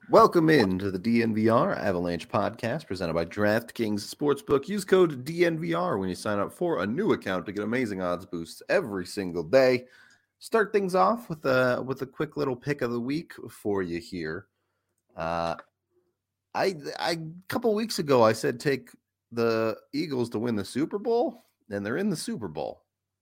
Welcome in to the DNVR Avalanche podcast presented by DraftKings Sportsbook. Use code DNVR when you sign up for a new account to get amazing odds boosts every single day. Start things off with a quick little pick of the week for you here. A couple weeks ago I said take the Eagles to win the Super Bowl, and they're in the Super Bowl.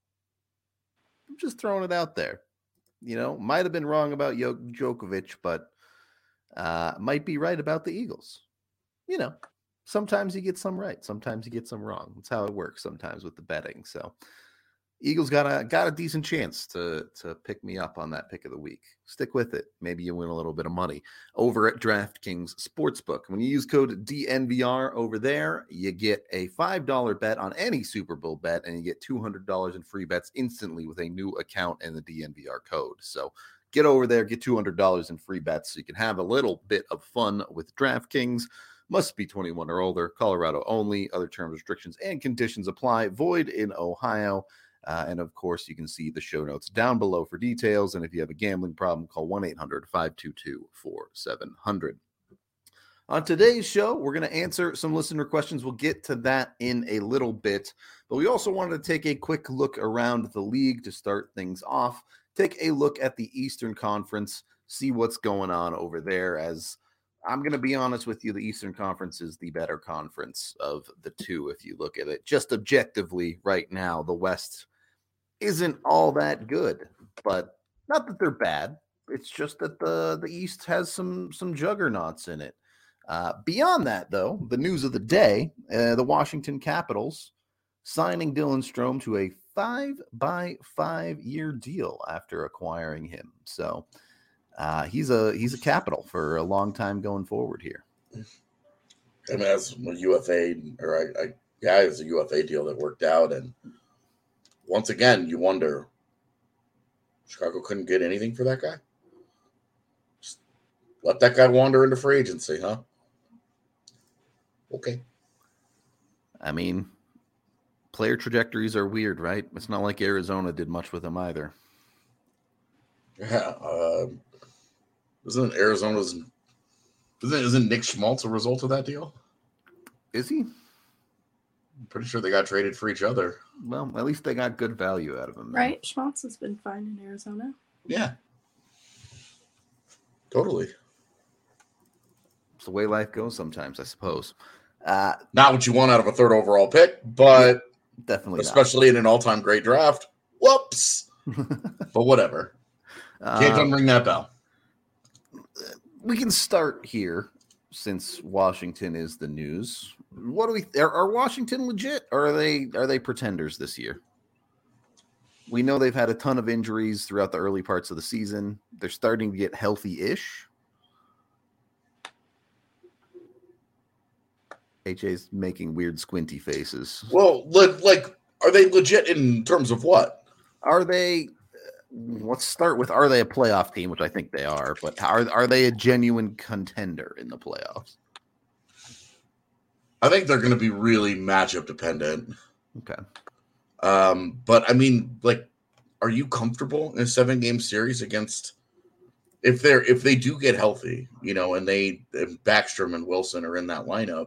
I'm just throwing it out there. Might have been wrong about Djokovic, but might be right about the Eagles. Sometimes you get some right, sometimes you get some wrong. That's how it works sometimes with the betting. So Eagles got a decent chance to pick me up on that pick of the week. Stick with it. Maybe you win a little bit of money over at DraftKings Sportsbook. When you use code DNVR over there, you get a $5 bet on any Super Bowl bet, and you get $200 in free bets instantly with a new account and the DNVR code. So get over there, get $200 in free bets so you can have a little bit of fun with DraftKings. Must be 21 or older, Colorado only. Other terms, restrictions, and conditions apply. Void in Ohio. And of course, you can see the show notes down below for details. And if you have a gambling problem, call 1-800-522-4700. On today's show, we're going to answer some listener questions. We'll get to that in a little bit. But we also wanted to take a quick look around the league to start things off. Take a look at the Eastern Conference, see what's going on over there. As I'm going to be honest with you, the Eastern Conference is the better conference of the two. If you look at it just objectively right now, the West isn't all that good, but not that they're bad. It's just that the East has some juggernauts in it. Beyond that, though, the news of the day, the Washington Capitals signing Dylan Strome to a 5-by-5-year deal after acquiring him. So he's a Capital for a long time going forward here. I mean, that's a UFA, it's a UFA deal that worked out. And once again, you wonder, Chicago couldn't get anything for that guy? Just let that guy wander into free agency, huh? Okay. I mean, player trajectories are weird, right? It's not like Arizona did much with him either. Yeah. Isn't Nick Schmaltz a result of that deal? Is he? I'm pretty sure they got traded for each other. Well, at least they got good value out of him. Right? Schmaltz has been fine in Arizona. Yeah. Totally. It's the way life goes sometimes, I suppose. Not what you want out of a third overall pick, but yeah, definitely especially in an all-time great draft. Whoops. But whatever. Can't unring that bell. We can start here since Washington is the news. What do we are Washington legit, or are they pretenders this year? We know they've had a ton of injuries throughout the early parts of the season. They're starting to get healthy-ish. HA's making weird squinty faces. Well, are they legit in terms of what? Are they? Let's start with, are they a playoff team, which I think they are, but are they a genuine contender in the playoffs? I think they're going to be really matchup dependent. Okay. But I mean, are you comfortable in a 7-game series against, if they do get healthy, and Backstrom and Wilson are in that lineup,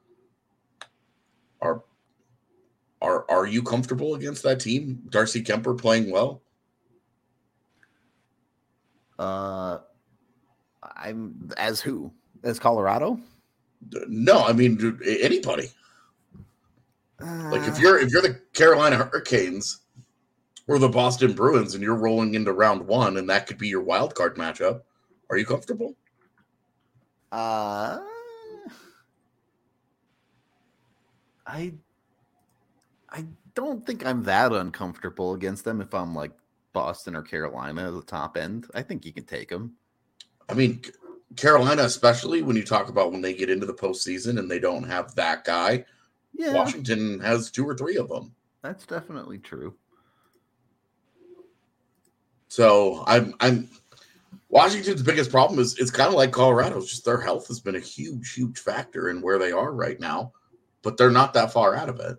are you comfortable against that team? Darcy Kemper playing well? I'm as who? As Colorado? No, I mean anybody. If you're the Carolina Hurricanes or the Boston Bruins and you're rolling into round 1 and that could be your wild card matchup, are you comfortable? I don't think I'm that uncomfortable against them if I'm like Boston or Carolina at the top end. I think you can take them. I mean, Carolina, especially when you talk about when they get into the postseason and they don't have that guy. Yeah. Washington has 2 or 3 of them. That's definitely true. So I'm Washington's biggest problem is it's kind of like Colorado's. Just their health has been a huge, huge factor in where they are right now, but they're not that far out of it.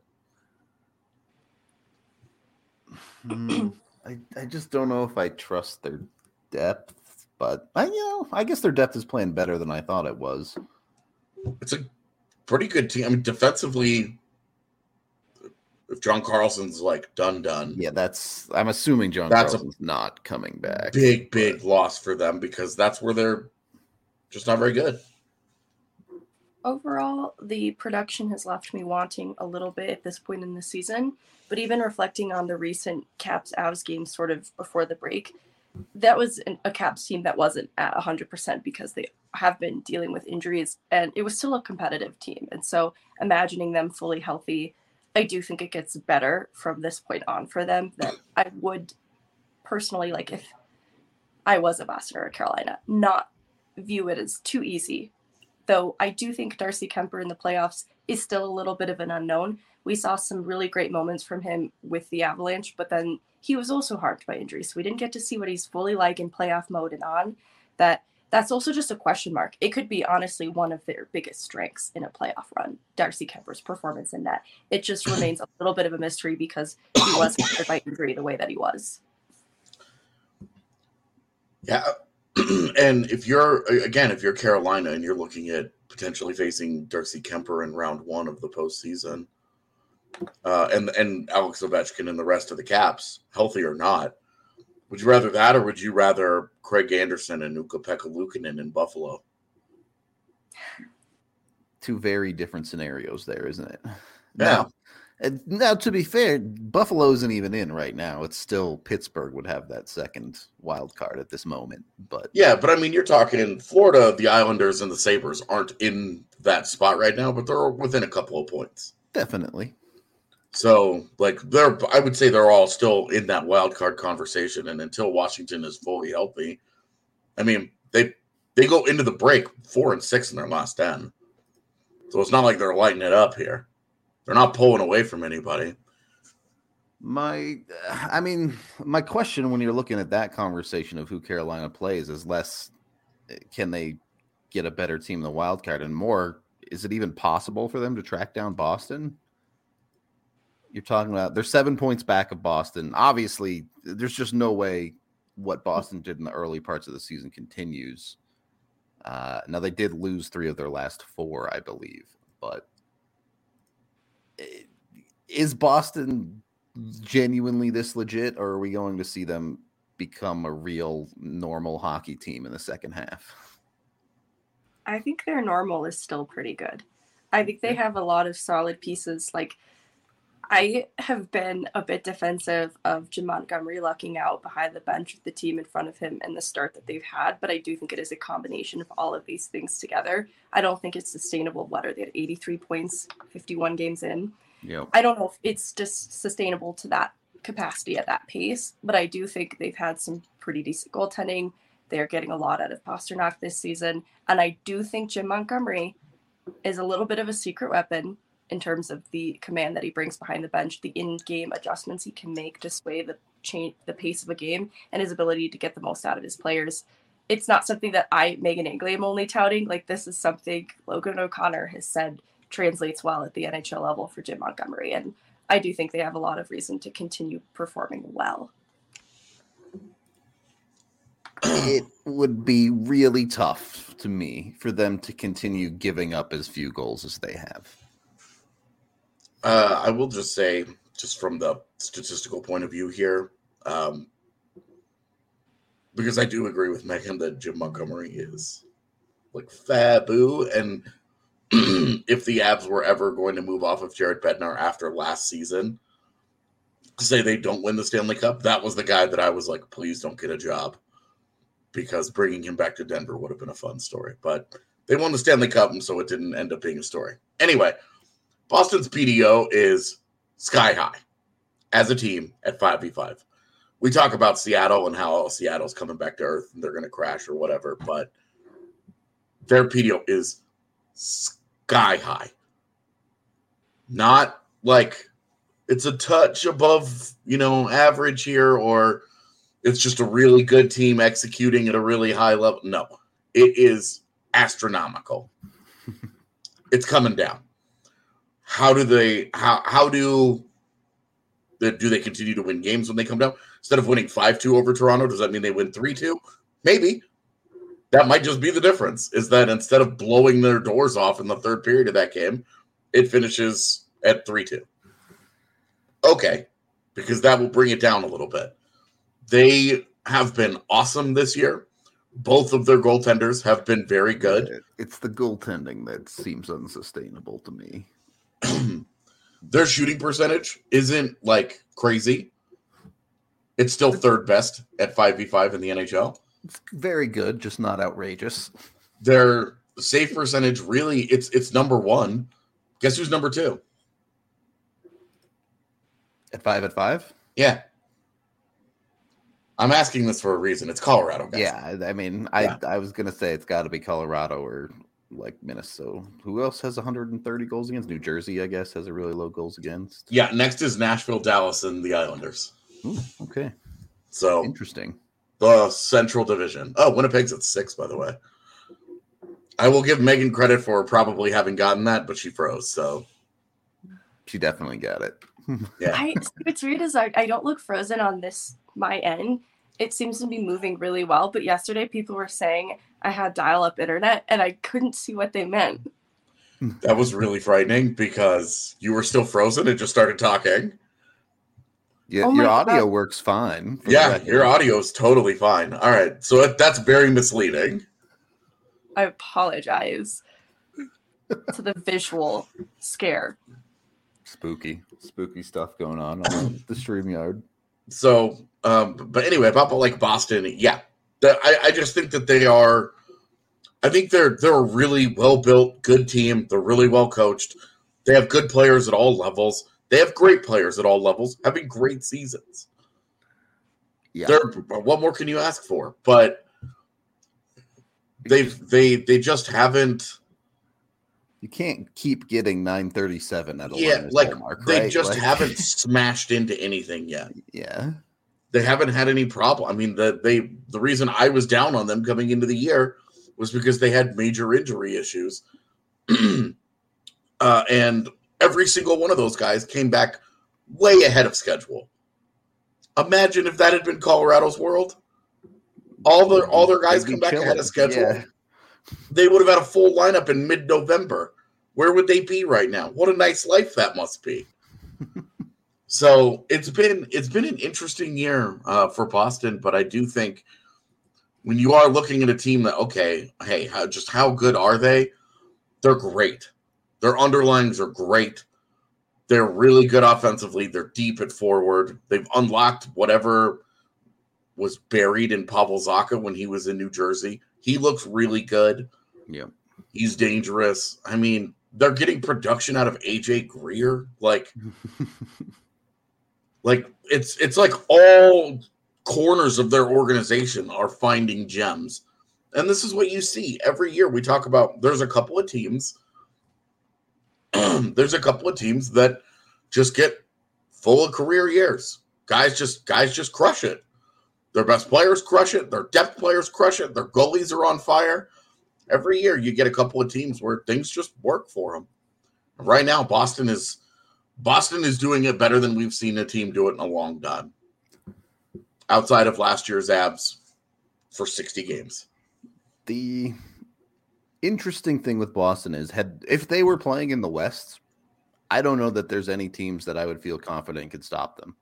I just don't know if I trust their depth But I guess their depth is playing better than I thought it was. It's a pretty good team. I mean, defensively, if John Carlson's like done, yeah, I'm assuming Carlson's not coming back. Big loss for them because that's where they're just not very good. Overall, the production has left me wanting a little bit at this point in the season, but even reflecting on the recent Caps-Avs game sort of before the break, that was a Caps team that wasn't at 100% because they have been dealing with injuries, and it was still a competitive team. And so imagining them fully healthy, I do think it gets better from this point on for them. That I would personally, like if I was a Boston or a Carolina, not view it as too easy. Though I do think Darcy Kemper in the playoffs is still a little bit of an unknown. We saw some really great moments from him with the Avalanche, but then he was also harmed by injuries. So we didn't get to see what he's fully like in playoff mode and on. That's also just a question mark. It could be honestly one of their biggest strengths in a playoff run, Darcy Kemper's performance in that. It just remains a little bit of a mystery because he was hindered by injury the way that he was. Yeah. And if you're Carolina and you're looking at potentially facing Darcy Kemper in round one of the postseason, and Alex Ovechkin and the rest of the Caps, healthy or not, would you rather that or would you rather Craig Anderson and Ukko-Pekka Luukkonen in Buffalo? Two very different scenarios there, isn't it? Yeah. Now, to be fair, Buffalo isn't even in right now. It's still Pittsburgh would have that second wild card at this moment. But I mean, you're talking in Florida, the Islanders and the Sabres aren't in that spot right now, but they're within a couple of points. Definitely. So, I would say they're all still in that wild card conversation. And until Washington is fully healthy, I mean, they go into the break 4-6 in their last 10. So it's not like they're lighting it up here. They're not pulling away from anybody. My question when you're looking at that conversation of who Carolina plays is less, can they get a better team in the wild card, and more, is it even possible for them to track down Boston? You're talking about they're 7 points back of Boston. Obviously, there's just no way what Boston did in the early parts of the season continues. Now, they did lose 3 of their last 4, I believe. But is Boston genuinely this legit, or are we going to see them become a real normal hockey team in the second half? I think their normal is still pretty good. I think they have a lot of solid pieces. Like, I have been a bit defensive of Jim Montgomery lucking out behind the bench with the team in front of him and the start that they've had, but I do think it is a combination of all of these things together. I don't think it's sustainable. What are they at 83 points, 51 games in? Yep. I don't know if it's just sustainable to that capacity at that pace, but I do think they've had some pretty decent goaltending. They're getting a lot out of Pasternak this season, and I do think Jim Montgomery is a little bit of a secret weapon in terms of the command that he brings behind the bench, the in-game adjustments he can make to sway the pace of a game, and his ability to get the most out of his players. It's not something that Megan Angley, am only touting. Like, this is something Logan O'Connor has said translates well at the NHL level for Jim Montgomery, and I do think they have a lot of reason to continue performing well. It would be really tough to me for them to continue giving up as few goals as they have. I will just say, just from the statistical point of view here, because I do agree with Megan that Jim Montgomery is like faboo, and if the Avs were ever going to move off of Jared Bednar after last season, say they don't win the Stanley Cup, that was the guy that I was like, please don't get a job, because bringing him back to Denver would have been a fun story. But they won the Stanley Cup, and so it didn't end up being a story. Anyway, Boston's PDO is sky high as a team at 5v5. We talk about Seattle and how Seattle's coming back to earth and they're going to crash or whatever, but their PDO is sky high. Not like it's a touch above, average here, or it's just a really good team executing at a really high level. No, it is astronomical. It's coming down. How do they continue to win games when they come down? Instead of winning 5-2 over Toronto, does that mean they win 3-2? Maybe. That might just be the difference, is that instead of blowing their doors off in the third period of that game, it finishes at 3-2. Okay, because that will bring it down a little bit. They have been awesome this year. Both of their goaltenders have been very good. It's the goaltending that seems unsustainable to me. Their shooting percentage isn't like crazy. It's still third best at 5v5 in the NHL. It's very good, just not outrageous. Their save percentage, really, it's number one. Guess who's number two? At 5-5? Yeah. I'm asking this for a reason. It's Colorado, guys. Yeah, I mean, I was going to say it's got to be Colorado or like Minnesota. Who else has 130 goals against? New Jersey, I guess, has a really low goals against. Yeah, next is Nashville, Dallas, and the Islanders. Ooh, okay. So interesting. The Central Division. Oh, Winnipeg's at 6, by the way. I will give Megan credit for probably having gotten that, but she froze, so. She definitely got it. Yeah. What's weird is I don't look frozen on my end. It seems to be moving really well, but yesterday people were saying I had dial-up internet, and I couldn't see what they meant. That was really frightening because you were still frozen and just started talking. Yeah, your audio works fine. Yeah, your audio is totally fine. All right, so that's very misleading. I apologize to the visual scare. Spooky stuff going on the StreamYard. So, but anyway, about like Boston, yeah, I just think that they are. I think they're a really well built, good team. They're really well coached. They have good players at all levels. They have great players at all levels, having great seasons. Yeah, what more can you ask for? But they just haven't. You can't keep getting 937 at a mark, they right? Just haven't smashed into anything yet. Yeah, they haven't had any problem. I mean, the reason I was down on them coming into the year was because they had major injury issues, and every single one of those guys came back way ahead of schedule. Imagine if that had been Colorado's world. All their guys come back ahead of schedule. Yeah. They would have had a full lineup in mid-November. Where would they be right now? What a nice life that must be. So it's been an interesting year for Boston, but I do think when you are looking at a team that, okay, hey, how good are they? They're great. Their underlines are great. They're really good offensively. They're deep at forward. They've unlocked whatever was buried in Pavel Zacha when he was in New Jersey. He looks really good. Yeah. He's dangerous. I mean, they're getting production out of AJ Greer. Like it's like all corners of their organization are finding gems. And this is what you see every year. We talk about there's a couple of teams. There's a couple of teams that just get full of career years. Guys just crush it. Their best players crush it. Their depth players crush it. Their goalies are on fire. Every year you get a couple of teams where things just work for them. Right now, Boston is doing it better than we've seen a team do it in a long time. Outside of last year's Avs for 60 games. The interesting thing with Boston is if they were playing in the West, I don't know that there's any teams that I would feel confident could stop them.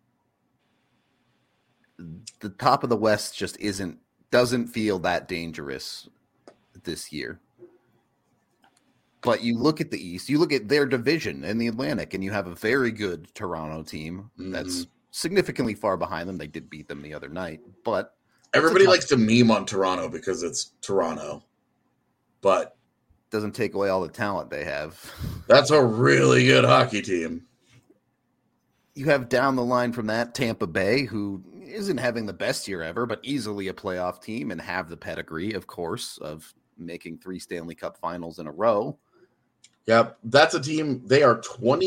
The top of the West just doesn't feel that dangerous this year. But you look at the East, you look at their division in the Atlantic, and you have a very good Toronto team that's significantly far behind them. They did beat them the other night, but everybody likes to meme on Toronto because it's Toronto, but doesn't take away all the talent they have. That's a really good hockey team. You have down the line from that Tampa Bay, who isn't having the best year ever, but easily a playoff team and have the pedigree, of course, of making 3 Stanley Cup finals in a row. Yep, that's a team. They are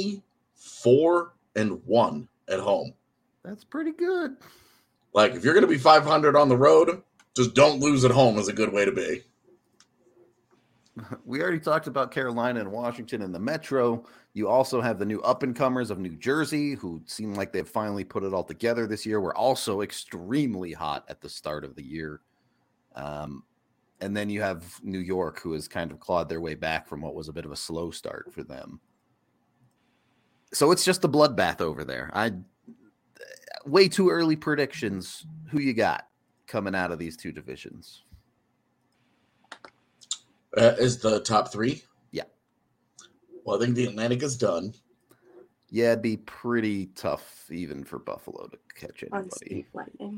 24-1 at home. That's pretty good. Like, if you're going to be 500 on the road, just don't lose at home is a good way to be. We already talked about Carolina and Washington in the Metro. You also have the new up-and-comers of New Jersey, who seem like they've finally put it all together this year. We're also extremely hot at the start of the year. And then you have New York, who has kind of clawed their way back from what was a bit of a slow start for them. So it's just a bloodbath over there. Way too early predictions. Who you got coming out of these two divisions? Is the top three? Yeah. Well, I think the Atlantic is done. Yeah, it'd be pretty tough even for Buffalo to catch anybody. Unseat Lightning.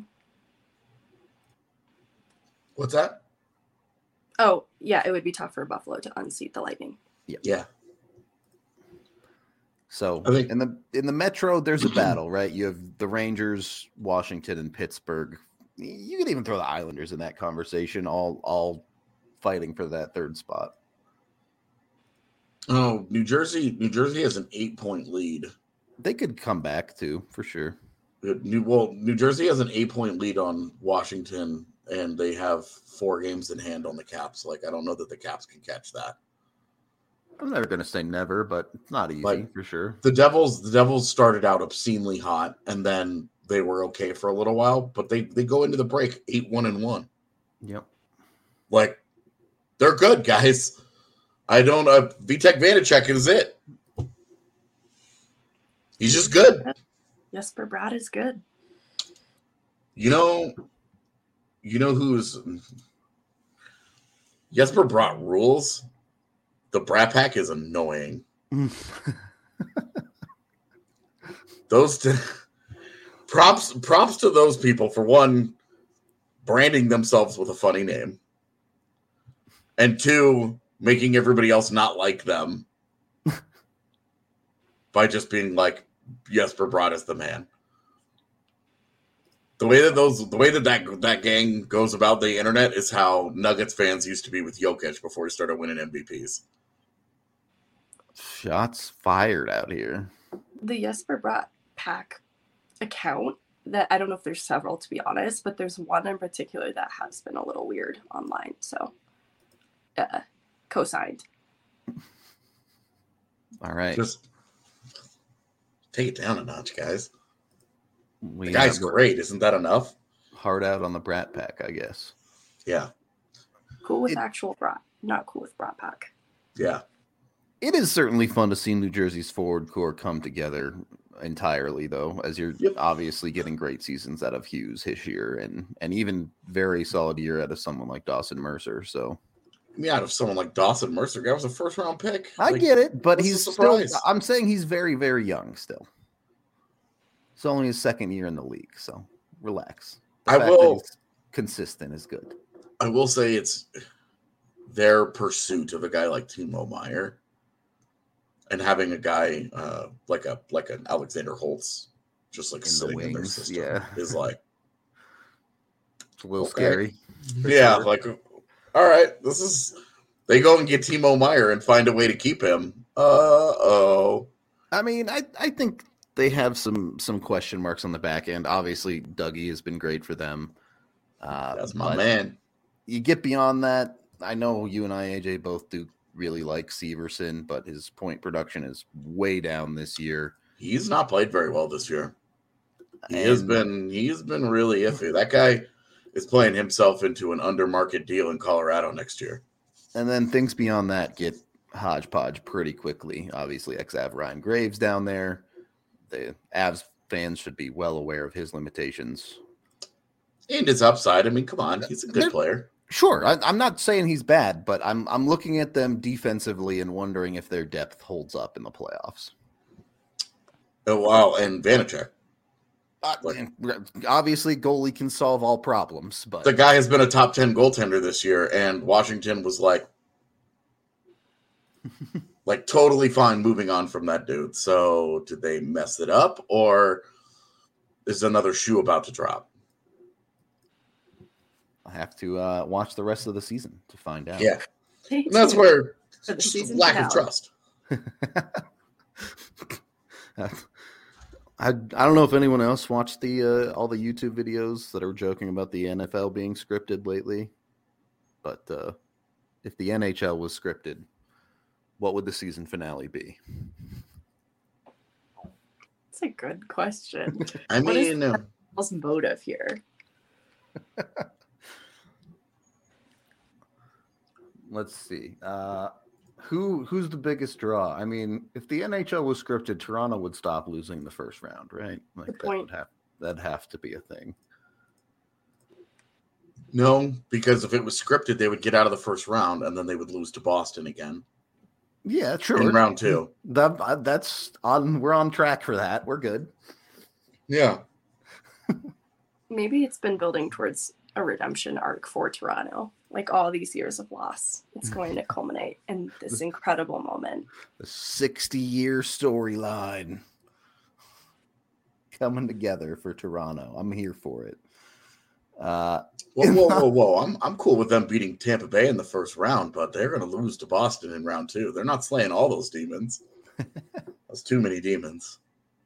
What's that? Oh, yeah, it would be tough for Buffalo to unseat the Lightning. Yeah. So I think- in the Metro, there's a battle, right? You have the Rangers, Washington, and Pittsburgh. You could even throw the Islanders in that conversation, all fighting for that third spot. Oh, New Jersey has an 8-point lead. They could come back too, for sure. New Jersey has an 8-point lead on Washington, and they have 4 games in hand on the Caps. Like, I don't know that the Caps can catch that. I'm never going to say never, but it's not easy for sure. The Devils started out obscenely hot, and then they were okay for a little while, but they go into the break 8-1-1. Yep. Like, they're good, guys. I don't. Vitek Vanacek is it. He's just good. Jesper Bratt is good. You know who's Jesper Bratt rules? The Brat Pack is annoying. Props to those people for one, branding themselves with a funny name, and 2, making everybody else not like them by just being like, Jesper Bratt is the man. The way that gang goes about the internet is how Nuggets fans used to be with Jokic before he started winning MVPs. Shots fired out here. The Jesper Bratt Pack account, that I don't know if there's several, to be honest, but there's one in particular that has been a little weird online. So, co-signed. All right. Just take it down a notch, guys. The guy's great. Isn't that enough? Hard out on the Brat Pack, I guess. Yeah. Cool with actual Brat, not cool with Brat Pack. Yeah. It is certainly fun to see New Jersey's forward core come together entirely, though, as you're obviously getting great seasons out of Hughes, Hischier, and even very solid year out of someone like Dawson Mercer. So, out of someone like Dawson Mercer, guy was a first-round pick. I get it, but he's still. I'm saying he's very, very young still. It's only his second year in the league, so relax. The fact that he's consistent is good. I will say it's their pursuit of a guy like Timo Meier and having a guy like an Alexander Holtz just like sitting in their system is like it's a little scary. Yeah, sure. Like all right, they go and get Timo Meier and find a way to keep him. I mean, I think they have some question marks on the back end. Obviously, Dougie has been great for them. That's my man. You get beyond that. I know you and I, AJ, both do really like Severson, but his point production is way down this year. He's not played very well this year. He has been really iffy. That guy is playing himself into an under-market deal in Colorado next year. And then things beyond that get hodgepodge pretty quickly. Obviously, ex-Av Ryan Graves down there. The Avs fans should be well aware of his limitations. And his upside. I mean, come on. He's a good player. Sure. I'm not saying he's bad, but I'm looking at them defensively and wondering if their depth holds up in the playoffs. Oh, wow. And Vanacek. Obviously, goalie can solve all problems, but the guy has been a top 10 goaltender this year, and Washington was like totally fine moving on from that dude. So did they mess it up, or is another shoe about to drop? I have to watch the rest of the season to find out. Yeah, and that's where just lack of trust. I don't know if anyone else watched the all the YouTube videos that are joking about the NFL being scripted lately, but if the NHL was scripted, what would the season finale be? That's a good question. I mean, what's motive here? let's see. Who's the biggest draw? I mean, if the NHL was scripted, Toronto would stop losing the first round, right? Like Good point. that'd have to be a thing. No, because if it was scripted, they would get out of the first round and then they would lose to Boston again. Yeah, true. In round 2. That's on. We're on track for that. We're good. Yeah. Maybe it's been building towards a redemption arc for Toronto. Like all these years of loss, it's going to culminate in this incredible moment. The 60-year storyline coming together for Toronto. I'm here for it. Whoa. I'm cool with them beating Tampa Bay in the first round, but they're going to lose to Boston in round 2. They're not slaying all those demons. That's too many demons.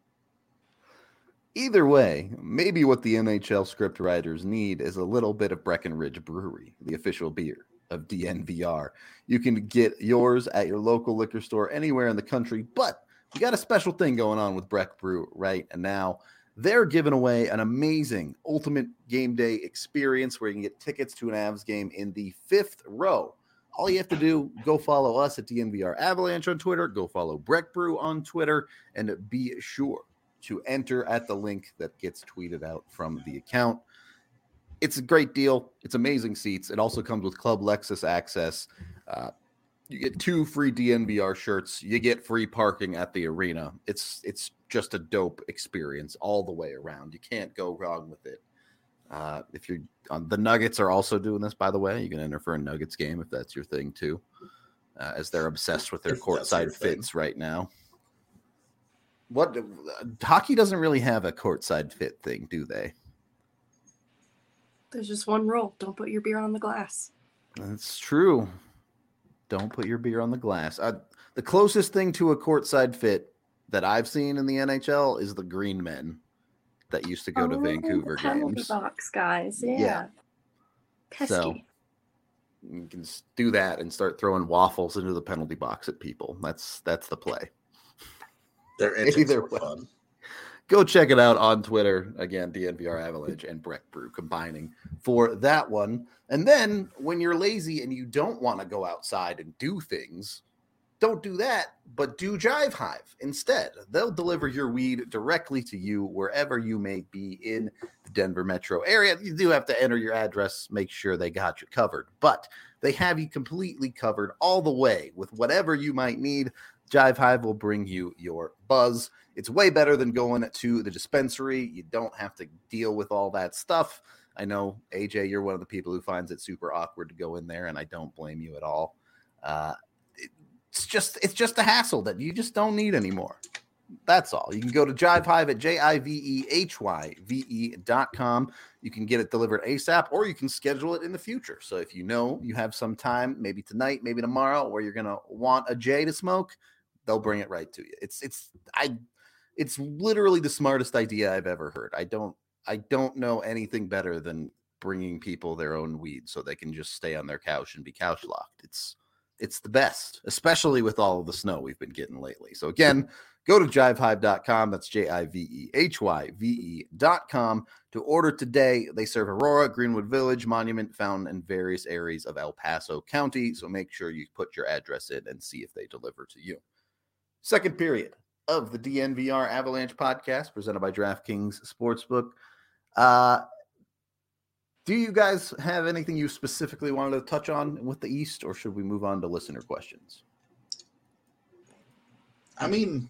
Either way, maybe what the NHL script writers need is a little bit of Breckenridge Brewery, the official beer of DNVR. You can get yours at your local liquor store anywhere in the country, but we got a special thing going on with Breck Brew right now. They're giving away an amazing ultimate game day experience where you can get tickets to an Avs game in the 5th row. All you have to do, go follow us at DNVR Avalanche on Twitter, go follow Breck Brew on Twitter, and be sure to enter at the link that gets tweeted out from the account. It's a great deal. It's amazing seats. It also comes with Club Lexus access. You get 2 free DNVR shirts. You get free parking at the arena. It's just a dope experience all the way around. You can't go wrong with it. If you're the Nuggets are also doing this, by the way. You can enter for a Nuggets game if that's your thing too, as they're obsessed with their courtside fits right now. What hockey doesn't really have a courtside fit thing, do they? There's just one rule: don't put your beer on the glass. That's true. Don't put your beer on the glass. The closest thing to a courtside fit that I've seen in the NHL is the Green Men that used to go to Vancouver games. Box guys, yeah. Pesky. So you can do that and start throwing waffles into the penalty box at people. That's the play. They're either fun. Go check it out on Twitter. Again, DNVR Avalanche and Breck Brew combining for that one. And then when you're lazy and you don't want to go outside and do things, don't do that, but do Jive Hive instead. They'll deliver your weed directly to you wherever you may be in the Denver metro area. You do have to enter your address, make sure they got you covered, but they have you completely covered all the way with whatever you might need. Jive Hive will bring you your buzz. It's way better than going to the dispensary. You don't have to deal with all that stuff. I know, AJ, you're one of the people who finds it super awkward to go in there, and I don't blame you at all. It's just a hassle that you just don't need anymore. That's all. You can go to Jive Hive at JIVEHYVE.com. You can get it delivered ASAP, or you can schedule it in the future. So if you know you have some time, maybe tonight, maybe tomorrow, where you're going to want a J to smoke, they'll bring it right to you. It's literally the smartest idea I've ever heard. I don't know anything better than bringing people their own weed so they can just stay on their couch and be couch locked. It's the best, especially with all of the snow we've been getting lately. So again, go to jivehive.com. That's JIVEHYVE.com to order today. They serve Aurora, Greenwood Village, Monument, Fountain, and various areas of El Paso County. So make sure you put your address in and see if they deliver to you. Second period of the DNVR Avalanche podcast presented by DraftKings Sportsbook. Do you guys have anything you specifically wanted to touch on with the East, or should we move on to listener questions? I mean,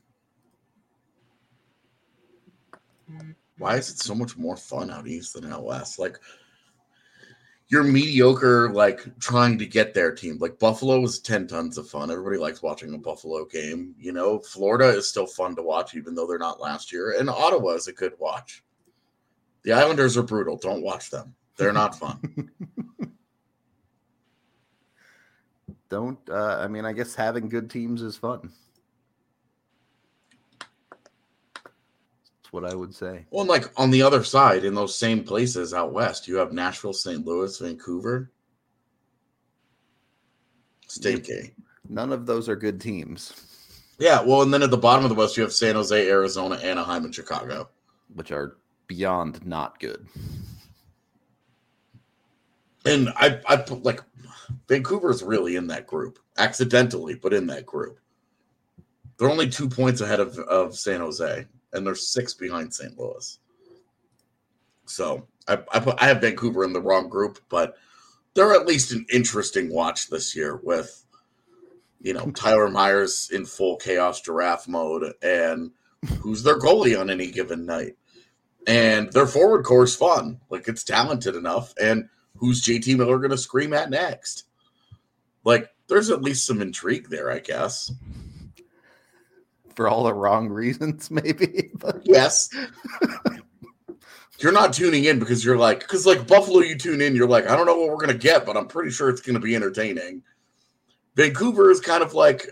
why is it so much more fun out East than out West? Like, you're mediocre, like, trying to get their team. Like, Buffalo is 10 tons of fun. Everybody likes watching a Buffalo game. You know, Florida is still fun to watch, even though they're not last year. And Ottawa is a good watch. The Islanders are brutal. Don't watch them. They're not fun. I mean, I guess having good teams is fun. That's what I would say. Well, and like on the other side, in those same places out West, you have Nashville, St. Louis, Vancouver. Stinky. None of those are good teams. Yeah, well, and then at the bottom of the West, you have San Jose, Arizona, Anaheim, and Chicago. Which are beyond not good. And I put like Vancouver's really in that group, accidentally, but in that group. They're only 2 points ahead of San Jose, and they're 6 behind St. Louis. So I have Vancouver in the wrong group, but they're at least an interesting watch this year with, Tyler Myers in full chaos giraffe mode, and who's their goalie on any given night. And their forward core is fun. Like, it's talented enough. And who's JT Miller going to scream at next? Like, there's at least some intrigue there, I guess. For all the wrong reasons, maybe. But... Yes. You're not tuning in because you're like, Buffalo, you tune in, you're like, I don't know what we're going to get, but I'm pretty sure it's going to be entertaining. Vancouver is kind of like,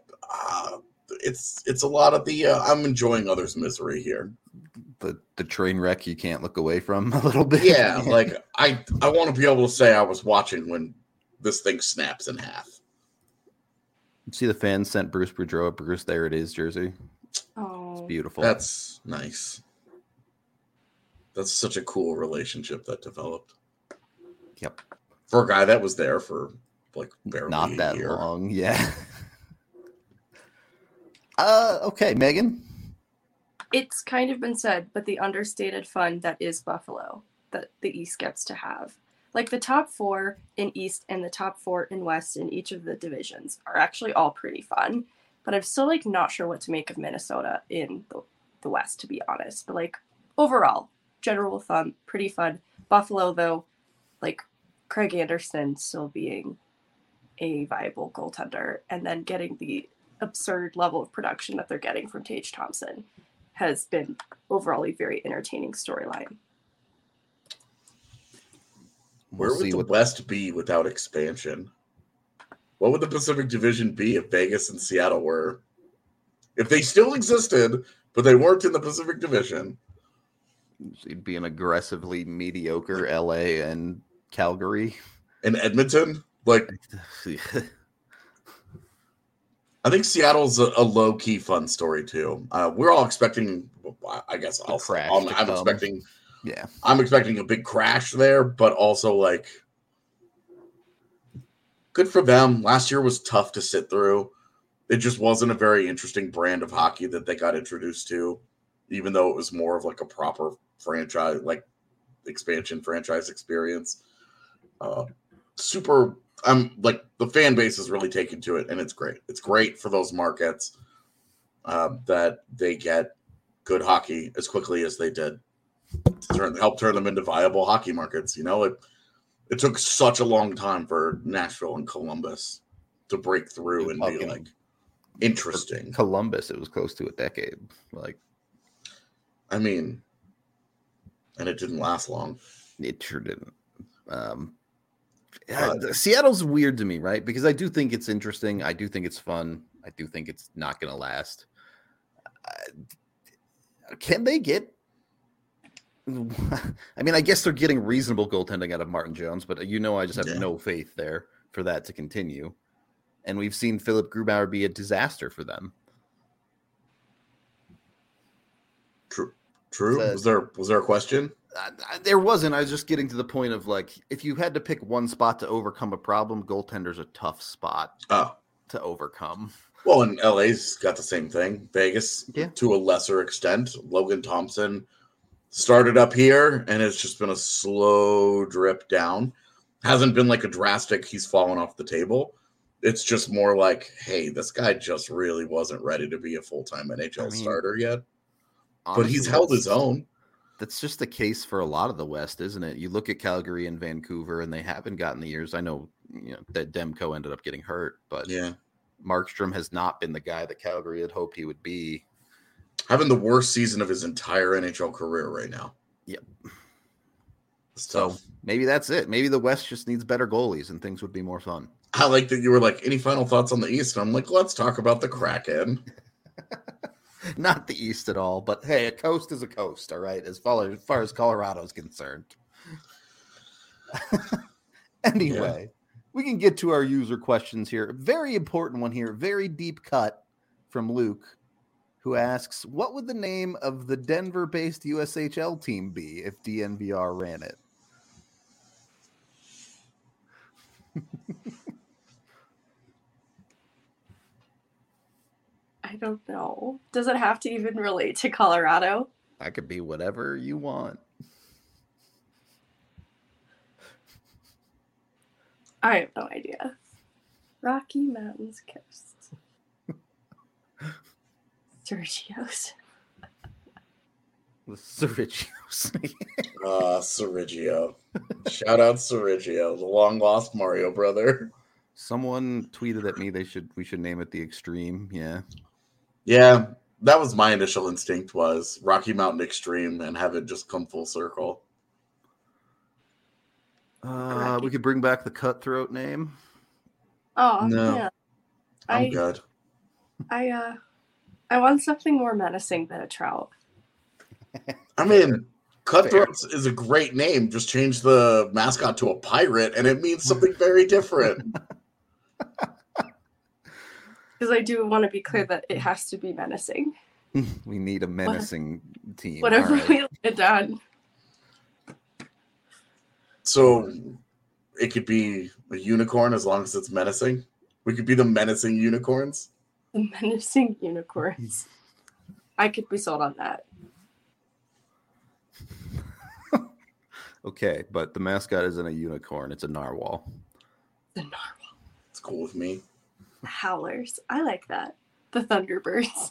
it's a lot of the, I'm enjoying others' misery here. The train wreck you can't look away from a little bit. Yeah, like, I want to be able to say I was watching when this thing snaps in half. See, the fans sent Bruce Boudreau a Bruce There It Is jersey. Oh, it's beautiful. That's nice. That's such a cool relationship that developed. Yep. For a guy that was there for like barely not that year. long. Yeah. Okay, Megan. It's kind of been said, but the understated fun that is Buffalo that the East gets to have. Like, the top 4 in East and the top 4 in West in each of the divisions are actually all pretty fun. But I'm still, like, not sure what to make of Minnesota in the West, to be honest. But, like, overall, general fun, pretty fun. Buffalo, though, like, Craig Anderson still being a viable goaltender and then getting the absurd level of production that they're getting from Tage Thompson has been overall a very entertaining storyline. Where would the West be without expansion? What would the Pacific Division be if Vegas and Seattle were? If they still existed, but they weren't in the Pacific Division. You'd be an aggressively mediocre LA and Calgary. And Edmonton? Like, I think Seattle's a low-key fun story, too. We're all expecting, I guess I'm expecting... Yeah, I'm expecting a big crash there, but also, like, good for them. Last year was tough to sit through. It just wasn't a very interesting brand of hockey that they got introduced to, even though it was more of like a proper franchise, like expansion franchise experience. The fan base is really taken to it, and it's great. It's great for those markets that they get good hockey as quickly as they did. Help turn them into viable hockey markets. It took such a long time for Nashville and Columbus to break through and be like interesting. Columbus, it was close to a decade. Like, I mean, and it didn't last long. It sure didn't. Seattle's weird to me, right? Because I do think it's interesting. I do think it's fun. I do think it's not going to last. Can they get? I mean, I guess they're getting reasonable goaltending out of Martin Jones, but I just have no faith there for that to continue. And we've seen Philip Grubauer be a disaster for them. True. Was there a question? There wasn't. I was just getting to the point of, like, if you had to pick one spot to overcome a problem, goaltender's a tough spot to overcome. Well, and LA's got the same thing. Vegas, to a lesser extent. Logan Thompson started up here, and it's just been a slow drip down. Hasn't been like a drastic, he's fallen off the table. It's just more like, hey, this guy just really wasn't ready to be a full-time NHL starter yet. Honestly, but he's held his own. That's just the case for a lot of the West, isn't it? You look at Calgary and Vancouver, and they haven't gotten the years. I know, that Demko ended up getting hurt, but Markstrom has not been the guy that Calgary had hoped he would be. Having the worst season of his entire NHL career right now. Yep. So maybe that's it. Maybe the West just needs better goalies and things would be more fun. I like that you were like, any final thoughts on the East? And I'm like, let's talk about the Kraken. Not the East at all, but hey, a coast is a coast, all right, as far as Colorado is concerned. Anyway, we can get to our user questions here. Very important one here, very deep cut from Luke, who asks, what would the name of the Denver-based USHL team be if DNVR ran it? I don't know. Does it have to even relate to Colorado? I could be whatever you want. I have no idea. Rocky Mountains Coast. Sergio's. The Cerritos. Sergio. Shout out Sergio, the long lost Mario brother. Someone tweeted at me we should name it the Extreme. Yeah. Yeah, that was my initial instinct, was Rocky Mountain Extreme, and have it just come full circle. We could bring back the Cutthroat name. Oh, No. yeah. I'm good. I want something more menacing than a trout. I mean, Cutthroats is a great name. Just change the mascot to a pirate, and it means something very different. Because I do want to be clear that it has to be menacing. We need a menacing team. Whatever All right. we get done. So it could be a unicorn as long as it's menacing. We could be the menacing unicorns. The menacing unicorns. I could be sold on that. Okay, but the mascot isn't a unicorn; it's a narwhal. The narwhal. It's cool with me. The howlers. I like that. The Thunderbirds.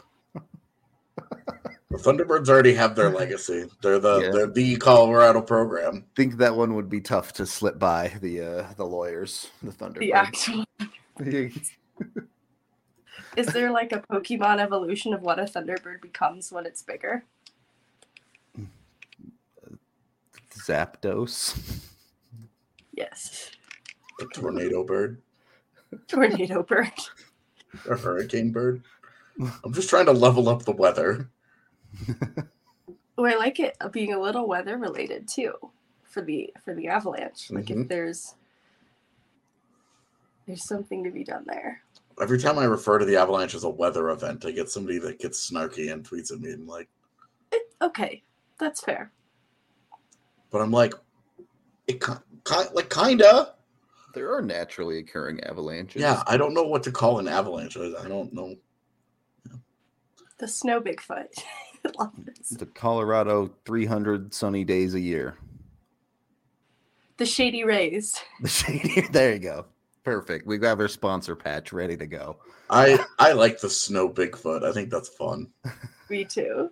The Thunderbirds already have their legacy. They're the Colorado program. Think that one would be tough to slip by the lawyers, the Thunderbirds. The actual. Is there like a Pokemon evolution of what a Thunderbird becomes when it's bigger? Zapdos. Yes. A tornado bird. Tornado bird. A hurricane bird. I'm just trying to level up the weather. Oh, I like it being a little weather related too for the avalanche. Like if there's something to be done there. Every time I refer to the avalanche as a weather event, I get somebody that gets snarky and tweets at me and like, okay, that's fair. But I'm like, kinda. There are naturally occurring avalanches. Yeah, I don't know what to call an avalanche. I don't know. The snow Bigfoot. I love this. The Colorado 300 sunny days a year. The Shady Rays. The Shady. There you go. Perfect. We have our sponsor patch ready to go. I like the snow Bigfoot. I think that's fun. Me too.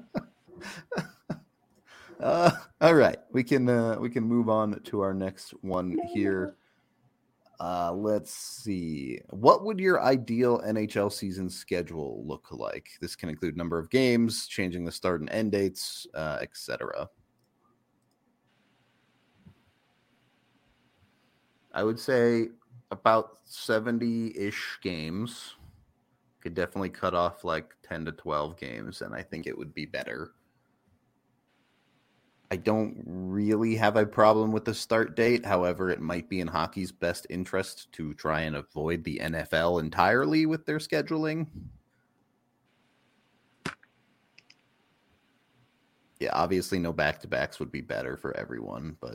All right, we can move on to our next one here. Let's see. What would your ideal NHL season schedule look like? This can include number of games, changing the start and end dates, etc. I would say about 70-ish games. Could definitely cut off like 10 to 12 games, and I think it would be better. I don't really have a problem with the start date. However, it might be in hockey's best interest to try and avoid the NFL entirely with their scheduling. Yeah, obviously no back-to-backs would be better for everyone, but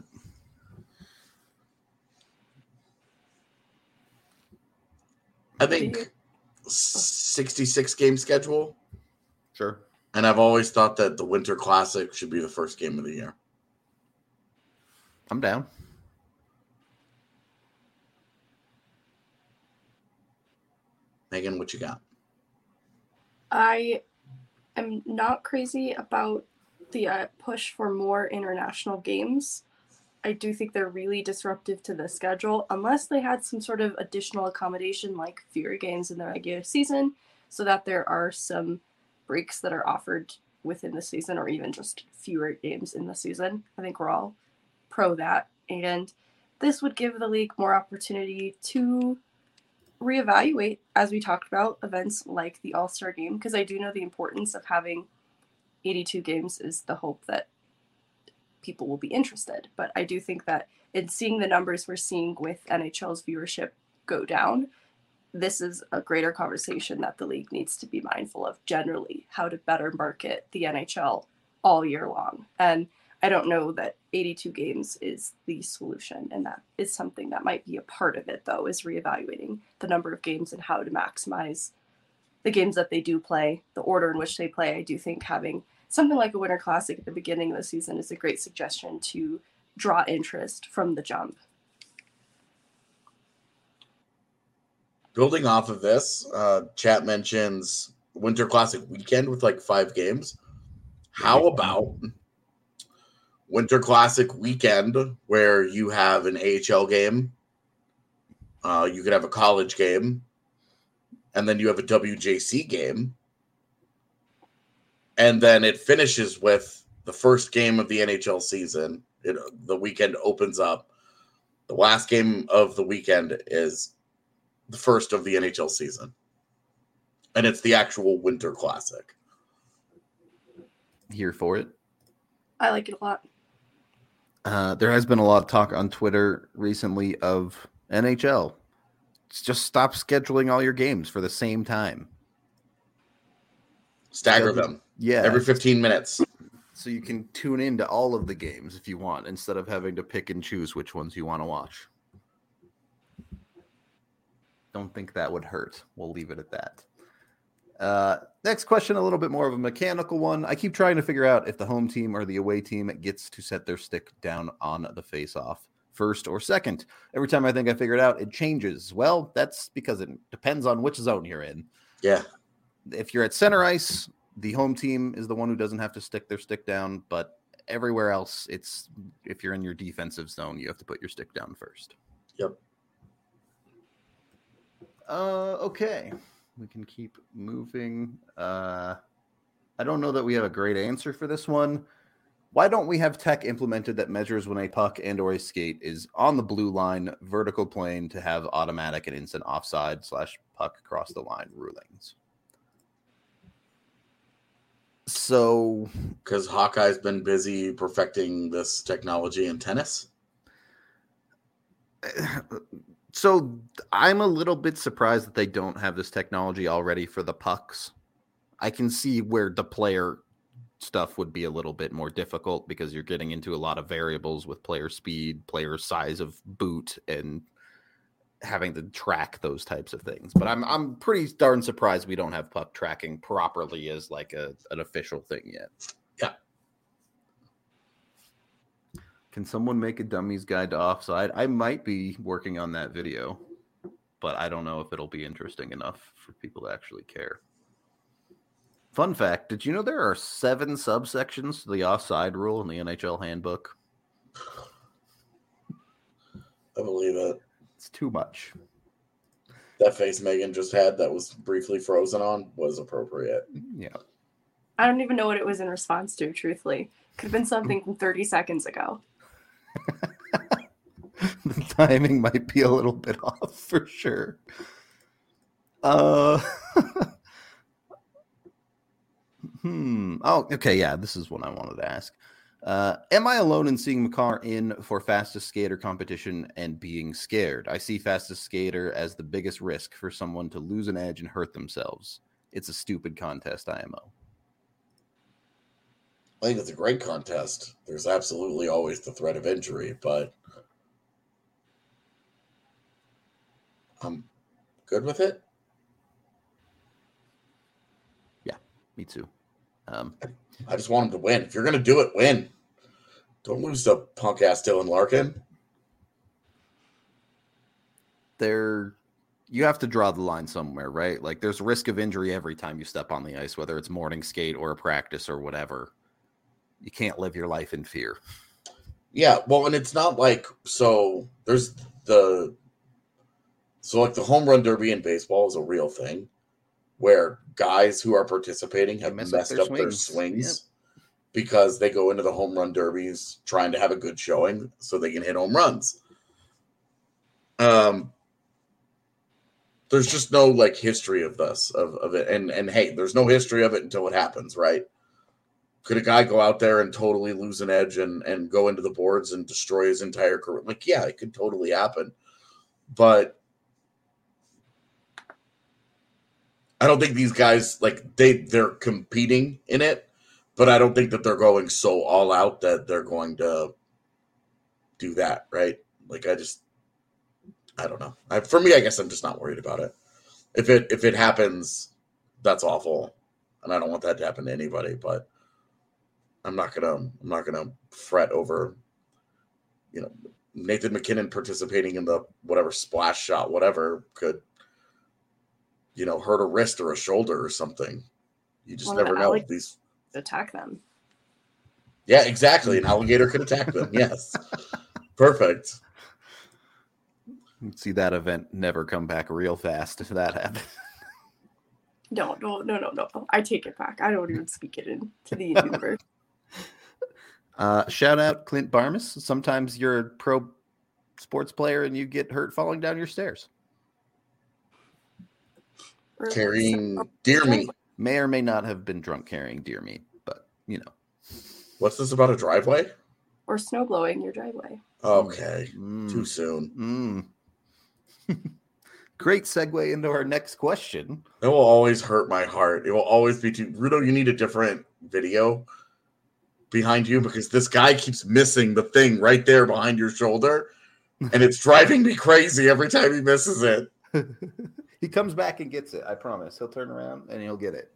I think 66 game schedule. sure. And I've always thought that the Winter Classic should be the first game of the year. I'm down. Megan, what you got? I am not crazy about the push for more international games. I do think they're really disruptive to the schedule, unless they had some sort of additional accommodation like fewer games in the regular season, so that there are some breaks that are offered within the season, or even just fewer games in the season. I think we're all pro that. And this would give the league more opportunity to reevaluate, as we talked about, events like the All-Star game, because I do know the importance of having 82 games is the hope that people will be interested. But I do think that in seeing the numbers we're seeing with NHL's viewership go down, this is a greater conversation that the league needs to be mindful of generally, how to better market the NHL all year long. And I don't know that 82 games is the solution, and that is something that might be a part of it, though, is reevaluating the number of games and how to maximize the games that they do play, the order in which they play. I do think having something like a Winter Classic at the beginning of the season is a great suggestion to draw interest from the jump. Building off of this, chat mentions Winter Classic weekend with like 5 games. How about Winter Classic weekend where you have an AHL game, you could have a college game, and then you have a WJC game, and then it finishes with the first game of the NHL season. The weekend opens up. The last game of the weekend is the first of the NHL season, and it's the actual Winter Classic. Here for it. I like it a lot. There has been a lot of talk on Twitter recently of NHL. Just stop scheduling all your games for the same time. Stagger them. Yeah. Every 15 minutes. So you can tune into all of the games if you want, instead of having to pick and choose which ones you want to watch. Don't think that would hurt. We'll leave it at that. Next question, a little bit more of a mechanical one. I keep trying to figure out if the home team or the away team gets to set their stick down on the face-off, first or second. Every time I think I figure it out, it changes. Well, that's because it depends on which zone you're in. Yeah. If you're at center ice, the home team is the one who doesn't have to stick their stick down, but everywhere else, it's if you're in your defensive zone, you have to put your stick down first. Yep. Okay. We can keep moving. I don't know that we have a great answer for this one. Why don't we have tech implemented that measures when a puck and or a skate is on the blue line, vertical plane, to have automatic and instant offside / puck across the line rulings? So, because Hawkeye's been busy perfecting this technology in tennis. So I'm a little bit surprised that they don't have this technology already for the pucks. I can see where the player stuff would be a little bit more difficult because you're getting into a lot of variables with player speed, player size of boot, and having to track those types of things. But I'm pretty darn surprised we don't have puck tracking properly as like an official thing yet. Yeah. Can someone make a dummy's guide to offside? I might be working on that video, but I don't know if it'll be interesting enough for people to actually care. Fun fact, did you know there are 7 subsections to the offside rule in the NHL handbook? I believe it. It's too much. That face Megan just had that was briefly frozen on was appropriate. Yeah. I don't even know what it was in response to, truthfully. Could have been something from 30 seconds ago. The timing might be a little bit off for sure. Oh, okay. Yeah, this is what I wanted to ask. Am I alone in seeing Makar in for fastest skater competition and being scared? I see fastest skater as the biggest risk for someone to lose an edge and hurt themselves. It's a stupid contest, IMO. I think it's a great contest. There's absolutely always the threat of injury, but I'm good with it. Yeah, me too. I just want him to win. If you're going to do it, win. Don't lose to punk-ass Dylan Larkin. You have to draw the line somewhere, right? Like, there's risk of injury every time you step on the ice, whether it's morning skate or a practice or whatever. You can't live your life in fear. Yeah, well, and it's not like, so the home run derby in baseball is a real thing where guys who are participating have messed up their swings because they go into the home run derbies trying to have a good showing so they can hit home runs. There's just no like history of this, of it. And hey, there's no history of it until it happens, right? Could a guy go out there and totally lose an edge and go into the boards and destroy his entire career? Like, yeah, it could totally happen. But I don't think these guys, like, they're competing in it, But I don't think that they're going so all out that they're going to do that, right? Like I don't know. For me, I guess I'm just not worried about it. If it happens, that's awful, and I don't want that to happen to anybody. But I'm not gonna fret over, Nathan McKinnon participating in the whatever splash shot, whatever could, hurt a wrist or a shoulder or something. You just never know. These attack them. Yeah, exactly. An alligator could attack them. Yes, perfect. See that event never come back real fast if that happens. No. I take it back. I don't even speak it into the universe. Shout out Clint Barmas. Sometimes you're a pro sports player and you get hurt falling down your stairs. Carrying deer meat. May or may not have been drunk carrying deer meat, but What's this about, a driveway? Or snow blowing your driveway. Okay. Too soon. Great segue into our next question. It will always hurt my heart. It will always be too. Rudo, you need a different video behind you because this guy keeps missing the thing right there behind your shoulder, and it's driving me crazy every time he misses it. He comes back and gets it. I promise. He'll turn around and he'll get it.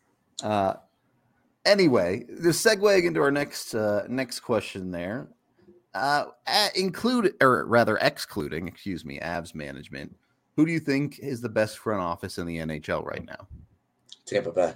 Anyway, the segueing into our next question there, excluding, Avs management. Who do you think is the best front office in the NHL right now? Tampa Bay.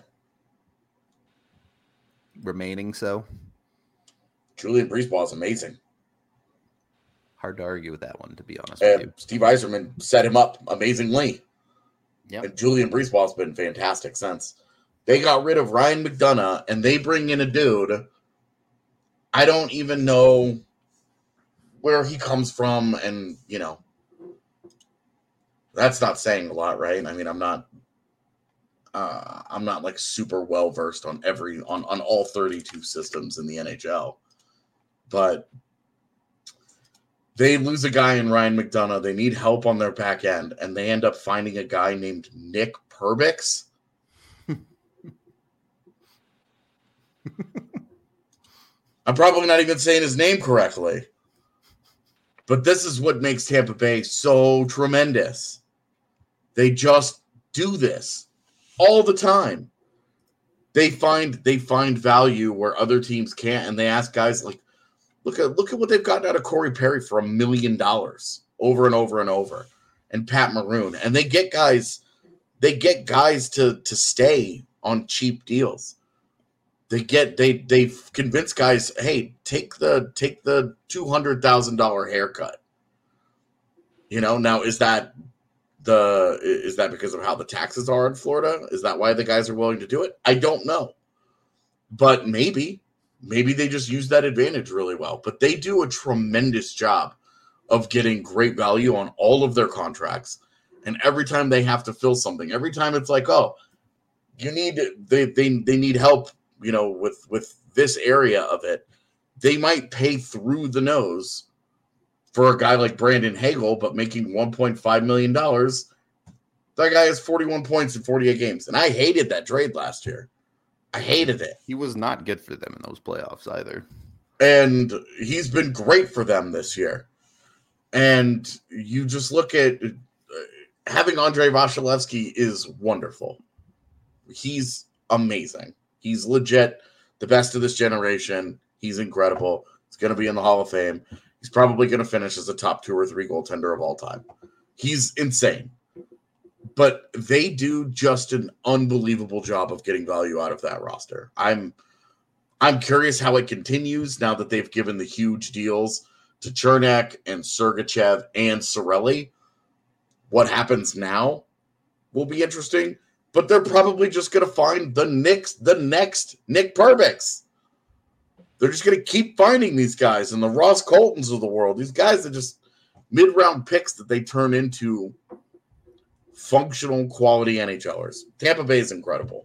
Remaining so? Julian Breezeball is amazing. Hard to argue with that one, to be honest with you. Steve Yzerman set him up amazingly. Yep. And Julian Breezeball has been fantastic since. They got rid of Ryan McDonough, and they bring in a dude. I don't even know where he comes from, and, that's not saying a lot, right? I mean, I'm not like super well versed on on all 32 systems in the NHL, but they lose a guy in Ryan McDonough. They need help on their back end, and they end up finding a guy named Nick Perbix. I'm probably not even saying his name correctly, but this is what makes Tampa Bay so tremendous. They just do this all the time. They find value where other teams can't, and they ask guys like, look at what they've gotten out of Corey Perry for $1 million over and over and over, and Pat Maroon, and they get guys to stay on cheap deals. They've convinced guys, hey, take the $200,000 haircut. Now is that because of how the taxes are in Florida? Is that why the guys are willing to do it? I don't know. But maybe they just use that advantage really well. But they do a tremendous job of getting great value on all of their contracts. And every time they have to fill something, every time it's like, oh, they need help, with this area of it, they might pay through the nose for a guy like Brandon Hagel, but making $1.5 million. That guy has 41 points in 48 games. And I hated that trade last year. I hated it. He was not good for them in those playoffs either. And he's been great for them this year. And you just look at having Andrei Vasilevsky is wonderful. He's amazing. He's legit the best of this generation. He's incredible. He's going to be in the Hall of Fame. He's probably going to finish as a top 2 or 3 goaltender of all time. He's insane. But they do just an unbelievable job of getting value out of that roster. I'm curious how it continues now that they've given the huge deals to Chernak and Sergachev and Cirelli. What happens now will be interesting. But they're probably just going to find the next Nick Perbix. They're just going to keep finding these guys and the Ross Coltons of the world. These guys are just mid-round picks that they turn into functional quality NHLers. Tampa Bay is incredible.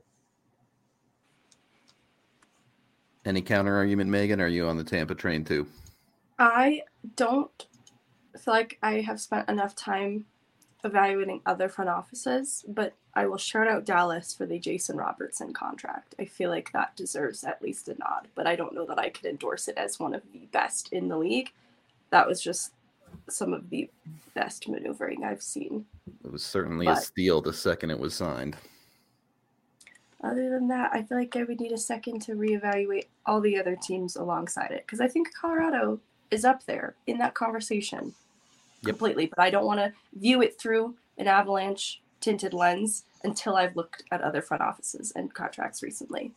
Any counter argument, Megan? Are you on the Tampa train too? I don't feel like I have spent enough time evaluating other front offices, but I will shout out Dallas for the Jason Robertson contract. I feel like that deserves at least a nod, but I don't know that I could endorse it as one of the best in the league. That was just some of the best maneuvering I've seen. It was certainly a steal the second it was signed. Other than that, I feel like I would need a second to reevaluate all the other teams alongside it, because I think Colorado is up there in that conversation completely, but I don't want to view it through an Avalanche tinted lens until I've looked at other front offices and contracts recently.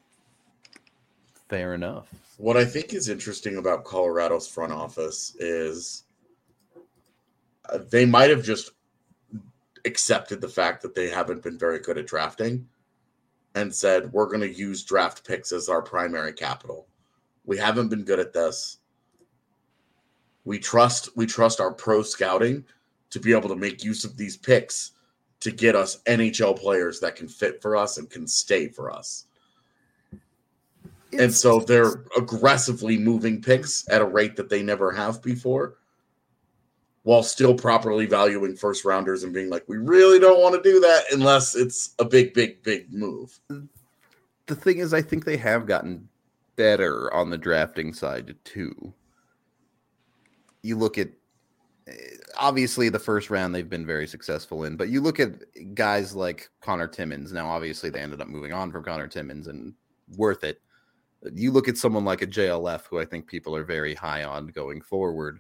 Fair enough. What I think is interesting about Colorado's front office is they might have just accepted the fact that they haven't been very good at drafting and said, we're going to use draft picks as our primary capital. We haven't been good at this. We trust our pro scouting to be able to make use of these picks to get us NHL players that can fit for us and can stay for us. And so they're aggressively moving picks at a rate that they never have before, while still properly valuing first rounders and being like, we really don't want to do that unless it's a big, big, big move. The thing is, I think they have gotten better on the drafting side too. You look at, obviously the first round they've been very successful in, but you look at guys like Connor Timmins. Now, obviously they ended up moving on from Connor Timmins, and worth it. You look at someone like a JLF, who I think people are very high on going forward.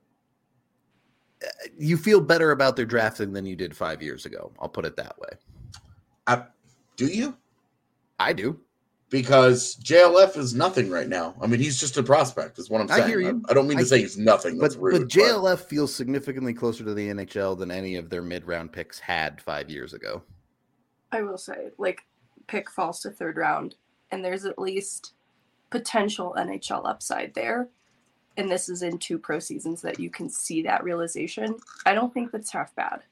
You feel better about their drafting than you did 5 years ago. I'll put it that way. Do you? I do. Because JLF is nothing right now. I mean, he's just a prospect, is what I'm saying. I hear you. I don't mean to say he's nothing. That's rude. But JLF feels significantly closer to the NHL than any of their mid-round picks had 5 years ago. I will say, like, pick falls to third round, and there's at least potential NHL upside there. And this is in 2 pro seasons that you can see that realization. I don't think that's half bad.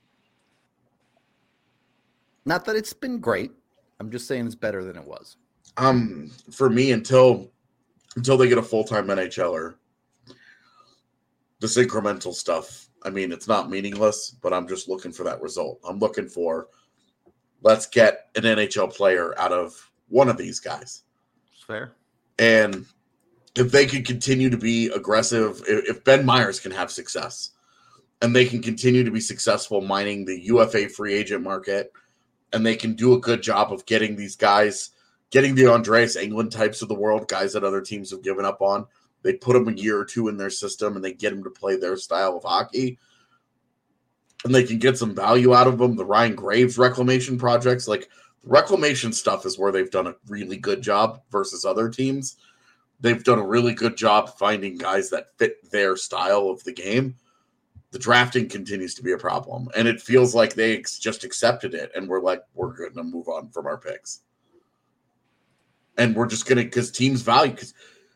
Not that it's been great. I'm just saying it's better than it was. For me, until they get a full-time NHLer, this incremental stuff, I mean, it's not meaningless, but I'm just looking for that result. I'm looking for, let's get an NHL player out of one of these guys. Fair. And if they can continue to be aggressive, if Ben Myers can have success and they can continue to be successful mining the UFA free agent market, and they can do a good job of getting these guys, getting the Andreas Englund types of the world, guys that other teams have given up on, they put them a year or two in their system and they get them to play their style of hockey, and they can get some value out of them. The Ryan Graves reclamation projects, like the reclamation stuff, is where they've done a really good job versus other teams. They've done a really good job finding guys that fit their style of the game. The drafting continues to be a problem, and it feels like they just accepted it, and we're like, we're going to move on from our picks. And we're just going to, because teams value, because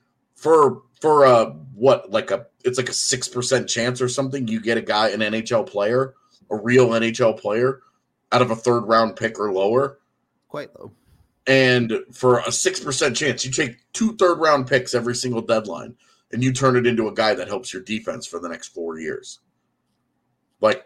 it's like a 6% chance or something, you get a guy, an NHL player, a real NHL player, out of a third round pick or lower. Quite low. And for a 6% chance, you take 2 third-round picks every single deadline, and you turn it into a guy that helps your defense for the next 4 years. Like,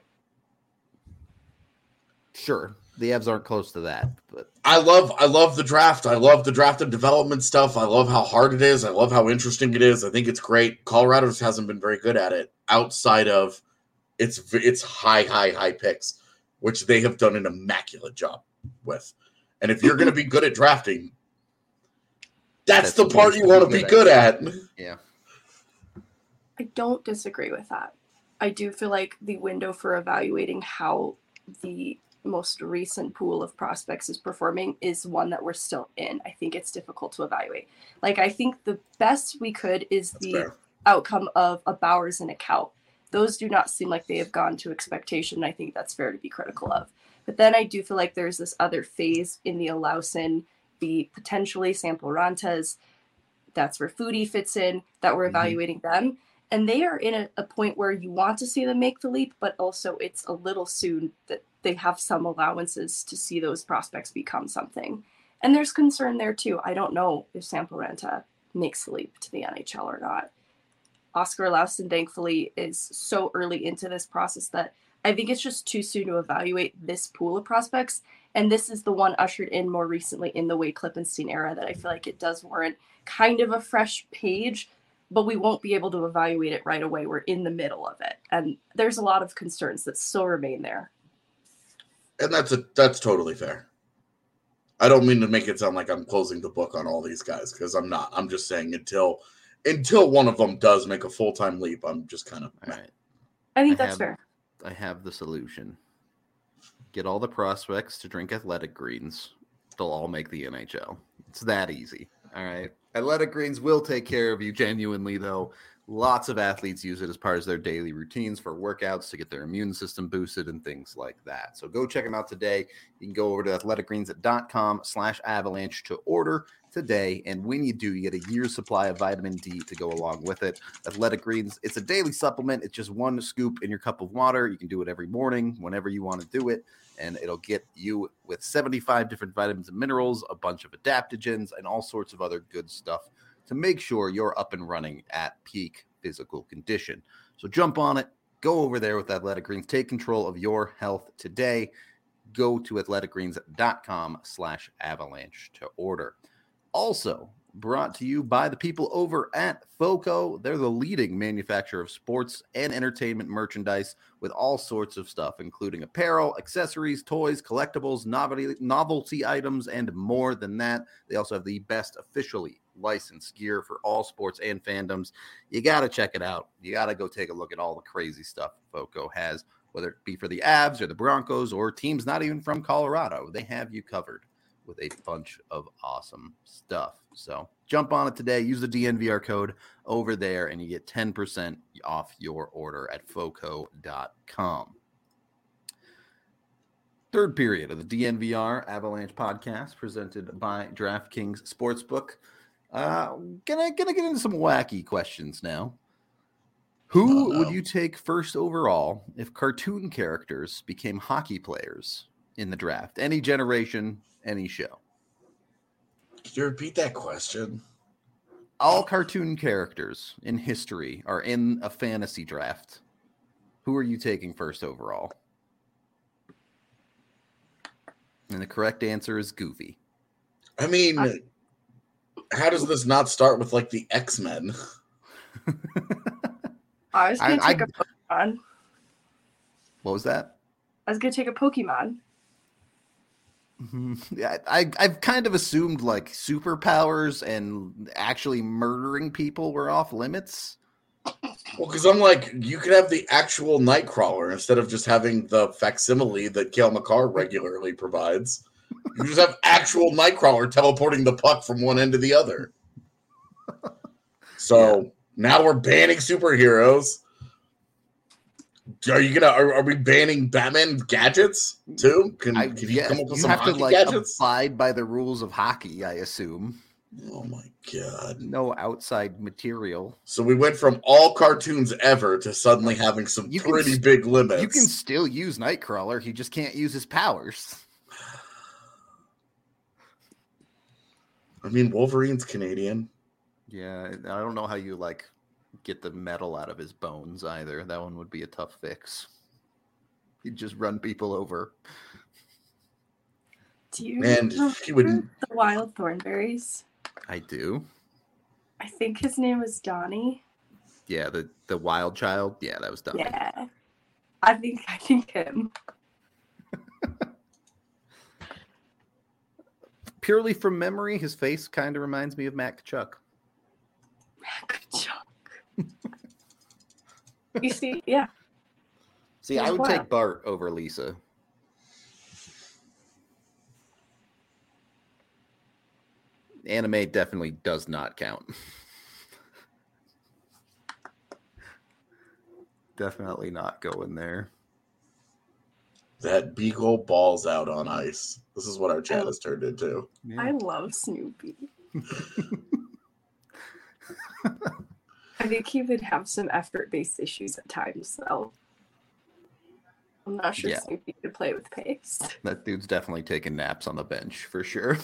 sure, the Avs aren't close to that, but I love the draft. I love the draft and development stuff. I love how hard it is. I love how interesting it is. I think it's great. Colorado just hasn't been very good at it outside of its high picks, which they have done an immaculate job with. And if you're going to be good at drafting, that's the part you want to be good at. Yeah. I don't disagree with that. I do feel like the window for evaluating how the most recent pool of prospects is performing is one that we're still in. I think it's difficult to evaluate. Like, I think the best we could is That's the fair. outcome of a Bowers and a Kaut. Those do not seem like they have gone to expectation. I think that's fair to be critical of. But then I do feel like there's this other phase in the Alausin, the potentially Sample Rantas, that's where Foodie fits in, that we're evaluating them. And they are in a point where you want to see them make the leap, but also it's a little soon that they have some allowances to see those prospects become something. And there's concern there too. I don't know if Sample Ranta makes the leap to the NHL or not. Oscar Alausin, thankfully, is so early into this process that I think it's just too soon to evaluate this pool of prospects. And this is the one ushered in more recently in the Wade Klippenstein era that I feel like it does warrant kind of a fresh page, but we won't be able to evaluate it right away. We're in the middle of it. And there's a lot of concerns that still remain there. And that's totally fair. I don't mean to make it sound like I'm closing the book on all these guys, because I'm not. I'm just saying until one of them does make a full-time leap, I'm just kind of... All right. I think that's fair. I have the solution. Get all the prospects to drink Athletic Greens. They'll all make the NHL. It's that easy. All right. Athletic Greens will take care of you genuinely, though. Lots of athletes use it as part of their daily routines for workouts to get their immune system boosted and things like that. So go check them out today. You can go over to athleticgreens.com/avalanche to order today. And when you do, you get a year's supply of vitamin D to go along with it. Athletic Greens, it's a daily supplement. It's just one scoop in your cup of water. You can do it every morning, whenever you want to do it. And it'll get you with 75 different vitamins and minerals, a bunch of adaptogens, and all sorts of other good stuff to make sure you're up and running at peak physical condition. So jump on it. Go over there with Athletic Greens. Take control of your health today. Go to athleticgreens.com/avalanche to order. Also brought to you by the people over at FOCO. They're the leading manufacturer of sports and entertainment merchandise with all sorts of stuff, including apparel, accessories, toys, collectibles, novelty items, and more than that. They also have the best officially licensed gear for all sports and fandoms. You got to check it out. You got to go take a look at all the crazy stuff FOCO has, whether it be for the Avs or the Broncos or teams not even from Colorado. They have you covered with a bunch of awesome stuff. So jump on it today. Use the DNVR code over there and you get 10% off your order at foco.com. Third period of the DNVR Avalanche podcast presented by DraftKings Sportsbook. Gonna get into some wacky questions now. Who would you take first overall if cartoon characters became hockey players in the draft? Any generation, any show. Could you repeat that question? All cartoon characters in history are in a fantasy draft. Who are you taking first overall? And the correct answer is Goofy. I mean, how does this not start with like the X-Men? I was going to take a Pokemon. What was that? I was going to take a Pokemon. Yeah, I've kind of assumed like superpowers and actually murdering people were off limits. Well, because I'm like, you could have the actual Nightcrawler instead of just having the facsimile that Cale Makar regularly provides. You just have actual Nightcrawler teleporting the puck from one end to the other. So now we're banning superheroes. Are we banning Batman gadgets too? Can you come up with some hockey gadgets? Abide by the rules of hockey, I assume. Oh my god! No outside material. So we went from all cartoons ever to suddenly having some pretty big limits. You can still use Nightcrawler. He just can't use his powers. I mean, Wolverine's Canadian. Yeah, I don't know how you get the metal out of his bones either. That one would be a tough fix. He'd just run people over. Do you remember the Wild Thornberries? I do. I think his name was Donnie. Yeah, the wild child. Yeah, that was Donnie. Yeah, I think him. Purely from memory, his face kind of reminds me of Matt Kachuk. Matt Kachuk. You see, yeah. See, I would take Bart over Lisa. Anime definitely does not count. Definitely not going there. That Beagle balls out on ice. This is what our chat has turned into. Yeah. I love Snoopy. I think he would have some effort-based issues at times, though. I'm not sure Snoopy could play with pace. That dude's definitely taking naps on the bench, for sure.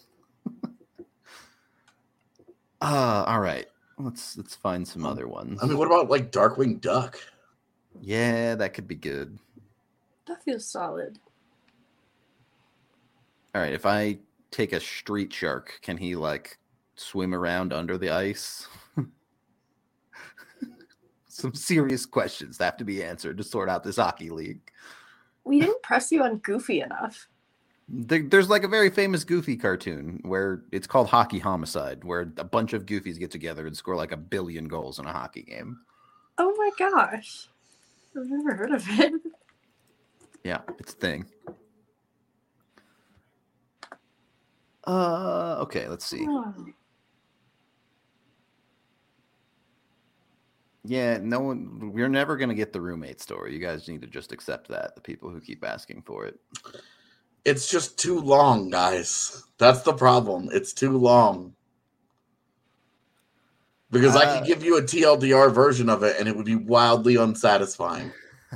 All right. Let's find some other ones. I mean, what about Darkwing Duck? Yeah, that could be good. That feels solid. All right, if I take a street shark, can he like swim around under the ice? Some serious questions that have to be answered to sort out this hockey league. We didn't press you on Goofy enough. There's like a very famous Goofy cartoon where it's called Hockey Homicide, where a bunch of Goofies get together and score like 1 billion goals in a hockey game. Oh my gosh. I've never heard of it. Yeah, it's a thing. Okay, let's see. Oh. Yeah, no one. We're never gonna get the roommate story. You guys need to just accept that. The people who keep asking for it. It's just too long, guys. That's the problem. It's too long. Because I could give you a TLDR version of it, and it would be wildly unsatisfying.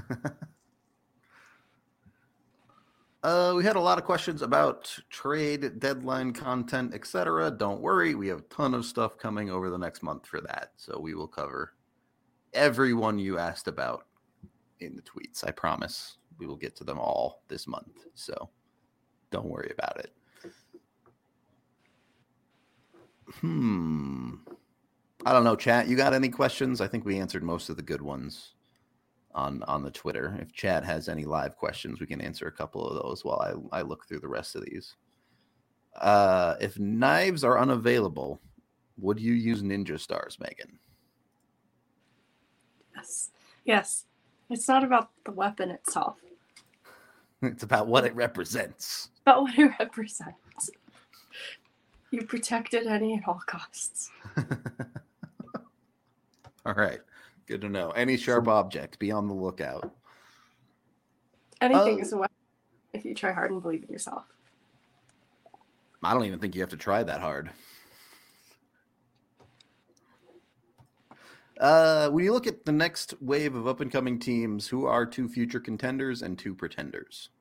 We had a lot of questions about trade, deadline content, etc. Don't worry, we have a ton of stuff coming over the next month for that. So we will cover everyone you asked about in the tweets. I promise we will get to them all this month. So don't worry about it. I don't know, chat. You got any questions? I think we answered most of the good ones on the Twitter. If chat has any live questions, we can answer a couple of those while I look through the rest of these. If knives are unavailable, would you use ninja stars, Megan? Yes. It's not about the weapon itself. It's about what it represents. About what it represents. You protect it at any and all costs. All right. Good to know. Any sharp object, be on the lookout. Anything is a weapon if you try hard and believe in yourself. I don't even think you have to try that hard. When you look at the next wave of up-and-coming teams, who are 2 future contenders and 2 pretenders?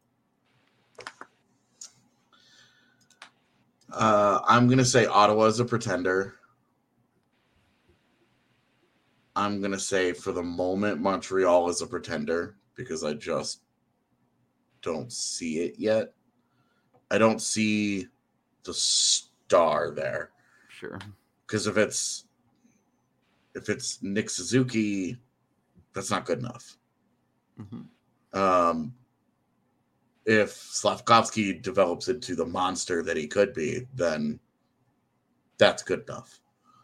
I'm going to say Ottawa is a pretender. I'm going to say for the moment Montreal is a pretender because I just don't see it yet. I don't see the star there. Sure. Because if it's Nick Suzuki, that's not good enough. Mm-hmm. If Slavkovsky develops into the monster that he could be, then that's good enough.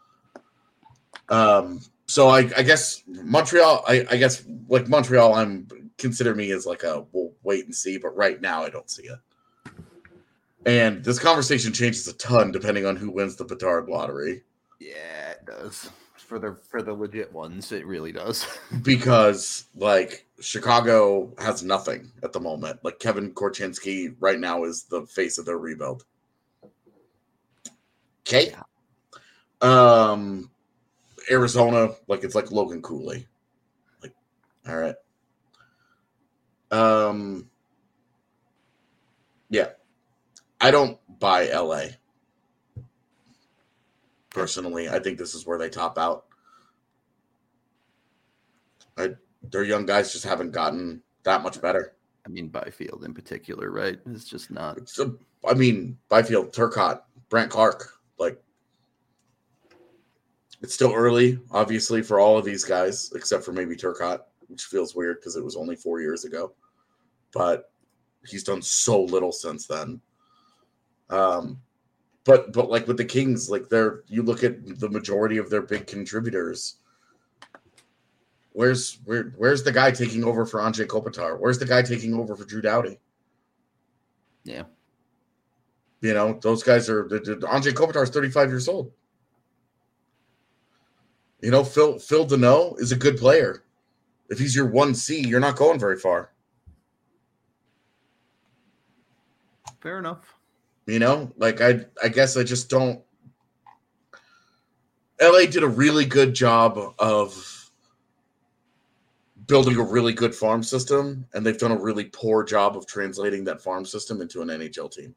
So I guess Montreal, I guess like Montreal, consider me as like a we'll wait and see, but right now I don't see it. And this conversation changes a ton depending on who wins the Bedard lottery. Yeah, it does. For the legit ones, it really does. Because like Chicago has nothing at the moment. Like Kevin Korchinski right now is the face of their rebuild. Okay. Yeah. Arizona, like it's like Logan Cooley. Like, all right. Yeah. I don't buy LA. Personally, I think this is where they top out. Their young guys just haven't gotten that much better. I mean, Byfield in particular, right? It's just not. Byfield, Turcotte, Brant Clark, like it's still early, obviously, for all of these guys, except for maybe Turcotte, which feels weird because it was only 4 years ago. But he's done so little since then. But like with the Kings, like you look at the majority of their big contributors. Where's the guy taking over for Anze Kopitar? Where's the guy taking over for Drew Doughty? Yeah. You know, those guys are Anze Kopitar is 35 years old. You know, Phil Deneau is a good player. If he's your 1C, you're not going very far. Fair enough. You know, like I guess I just don't. LA did a really good job of building a really good farm system, and they've done a really poor job of translating that farm system into an NHL team.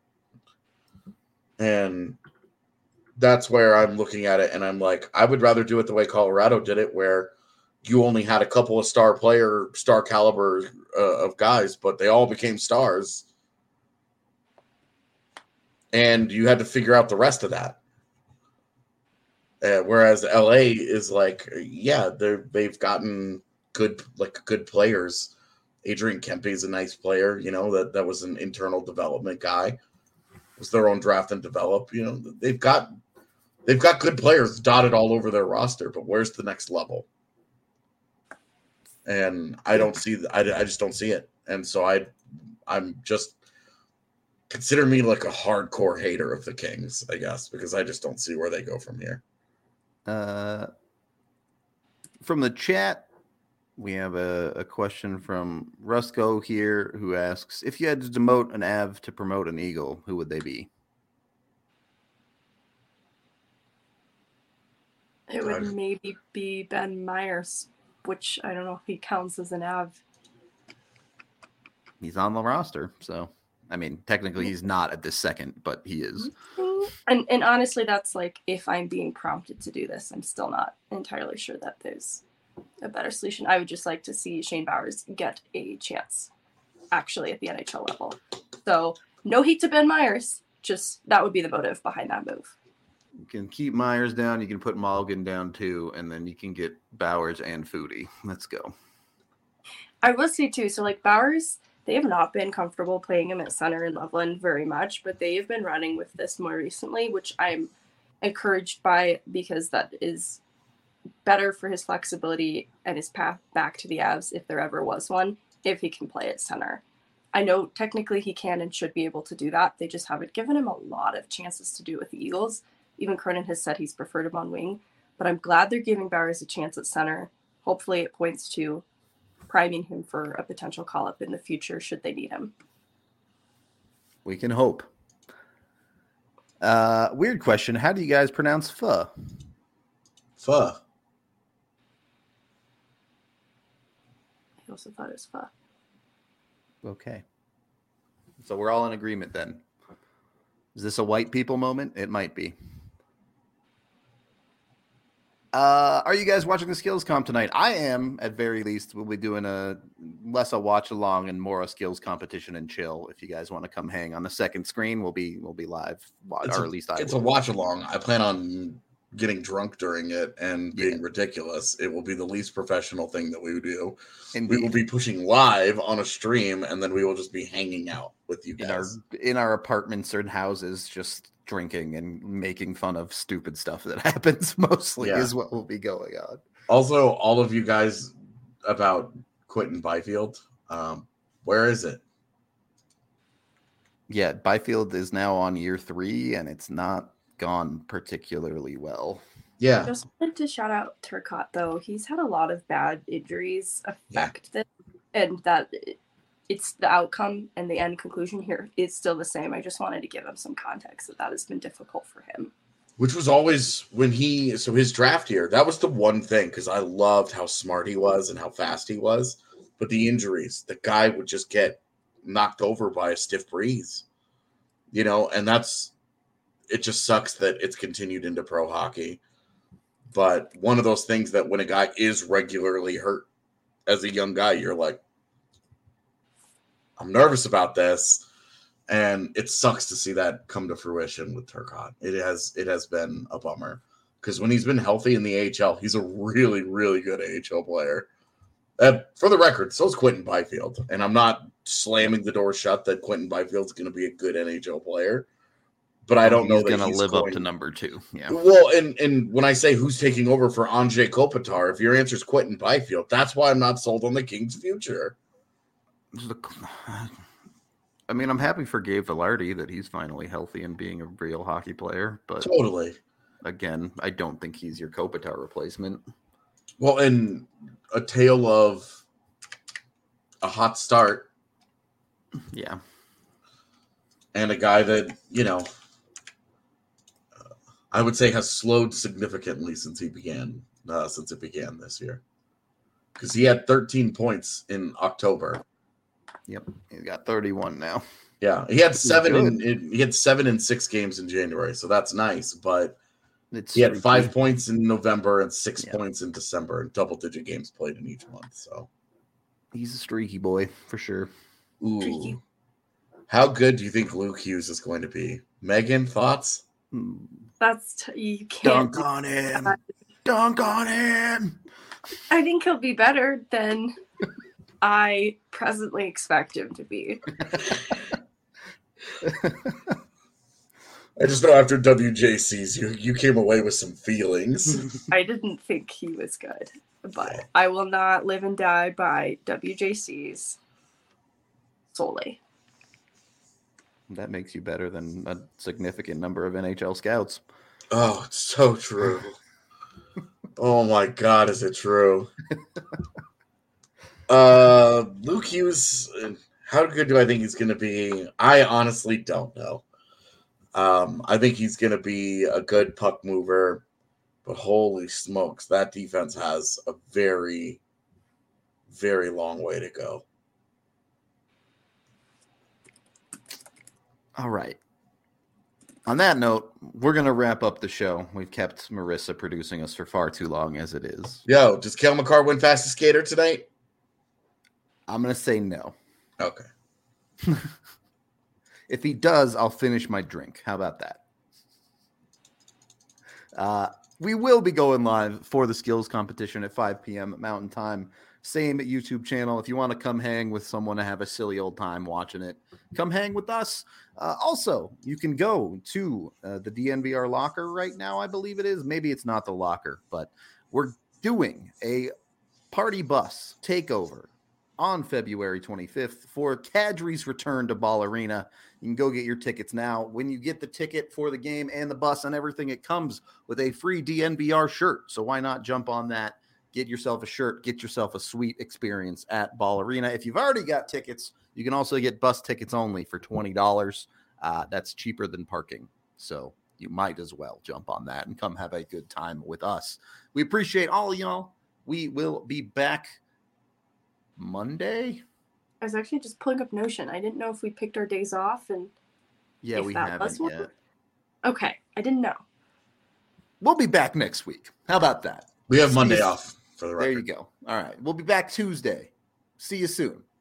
And that's where I'm looking at it, and I'm like, I would rather do it the way Colorado did it, where you only had a couple of star caliber of guys, but they all became stars. and you had to figure out the rest of that. Whereas LA is like, yeah, they've gotten good players. Adrian Kempe is a nice player, that was an internal development guy. It was their own draft and develop. They've got good players dotted all over their roster, but where's the next level? And I don't see I just don't see it. And so I'm just consider me like a hardcore hater of the Kings, I guess, because I just don't see where they go from here. From the chat, we have a question from Rusco here who asks, if you had to demote an Av to promote an Eagle, who would they be? It would maybe be Ben Myers, which I don't know if he counts as an Av. He's on the roster, so I mean, technically he's not at this second, but he is. And honestly, that's like if I'm being prompted to do this, I'm still not entirely sure that there's a better solution. I would just like to see Shane Bowers get a chance actually at the NHL level. So no hate to Ben Myers, just that would be the motive behind that move. You can keep Myers down, you can put Mulligan down too, and then you can get Bowers and Foodie. Let's go. I will say too, so like Bowers, they have not been comfortable playing him at center in Loveland very much, but they have been running with this more recently, which I'm encouraged by because that is better for his flexibility and his path back to the Avs if there ever was one, if he can play at center. I know technically he can and should be able to do that. They just haven't given him a lot of chances to do it with the Eagles. Even Cronin has said he's preferred him on wing, but I'm glad they're giving Bowers a chance at center. Hopefully it points to priming him for a potential call-up in the future should they need him. We can hope. Weird question. How do you guys pronounce pho? Pho. I also thought it was pho. Okay. So we're all in agreement then. Is this a white people moment? It might be. Are you guys watching the skills comp tonight? I am, at very least. We'll be doing less a watch along and more a skills competition and chill. If you guys want to come hang on the second screen, we'll be live. It's a watch along. I plan on getting drunk during it and being ridiculous. It will be the least professional thing that we would do. Indeed. We will be pushing live on a stream, and then we will just be hanging out with you guys in our apartments or in houses, just drinking and making fun of stupid stuff that happens mostly is what will be going on. Also, all of you guys about Quinton Byfield, where is it? Yeah, Byfield is now on year 3 and it's not gone particularly well. Yeah. I just wanted to shout out Turcotte though. He's had a lot of bad injuries affect this, and that it's the outcome and the end conclusion here is still the same. I just wanted to give him some context that has been difficult for him. Which was always his draft year, that was the one thing, because I loved how smart he was and how fast he was. But the injuries, the guy would just get knocked over by a stiff breeze, and it just sucks that it's continued into pro hockey. But one of those things that when a guy is regularly hurt as a young guy, you're like, I'm nervous about this, and it sucks to see that come to fruition with Turcotte. It has been a bummer, because when he's been healthy in the AHL, he's a really, really good AHL player. For the record, so is Quinton Byfield, and I'm not slamming the door shut that Quinton Byfield's going to be a good NHL player, but I don't know that he's going to live up to number 2. Yeah. Well, and when I say who's taking over for Anze Kopitar, if your answer is Quinton Byfield, that's why I'm not sold on the Kings' future. I mean, I'm happy for Gabe Vilardi that he's finally healthy and being a real hockey player, but totally. Again, I don't think he's your Kopitar replacement. Well, and a tale of a hot start. Yeah. And a guy that, I would say has slowed significantly since it began this year. Because he had 13 points in October. Yep, he's got 31 now. Yeah, he had 7 in 6 games in January, so that's nice. But he had 5 points in November and 6 points in December, and double-digit games played in each month. So he's a streaky boy for sure. Ooh, How good do you think Luke Hughes is going to be? Megan, thoughts? You can't Dunk on him. Dunk on him. I think he'll be better than I presently expect him to be. I just know after WJC's, you came away with some feelings. I didn't think he was good, but I will not live and die by WJC's solely. That makes you better than a significant number of NHL scouts. Oh, it's so true. Oh my God, is it true? Luke Hughes, how good do I think he's going to be? I honestly don't know. I think he's going to be a good puck mover, but holy smokes, that defense has a very, very long way to go. All right. On that note, we're going to wrap up the show. We've kept Marissa producing us for far too long as it is. Yo, does Cale Makar win fastest skater tonight? I'm going to say no. Okay. If he does, I'll finish my drink. How about that? We will be going live for the skills competition at 5 p.m. Mountain Time. Same YouTube channel. If you want to come hang with someone to have a silly old time watching it, come hang with us. Also, you can go to the DNVR locker right now, I believe it is. Maybe it's not the locker, but we're doing a party bus takeover on February 25th for Kadri's return to Ball Arena. You can go get your tickets now. When you get the ticket for the game and the bus and everything, it comes with a free DNVR shirt. So why not jump on that? Get yourself a shirt, get yourself a sweet experience at Ball Arena. If you've already got tickets, you can also get bus tickets only for $20. That's cheaper than parking. So you might as well jump on that and come have a good time with us. We appreciate all of y'all. We will be back Monday. I was actually just pulling up Notion. I didn't know if we picked our days off and Yeah, we haven't yet. Okay, I didn't know. We'll be back next week. How about that? We have Monday off for the record. There you go. All right. We'll be back Tuesday. See you soon.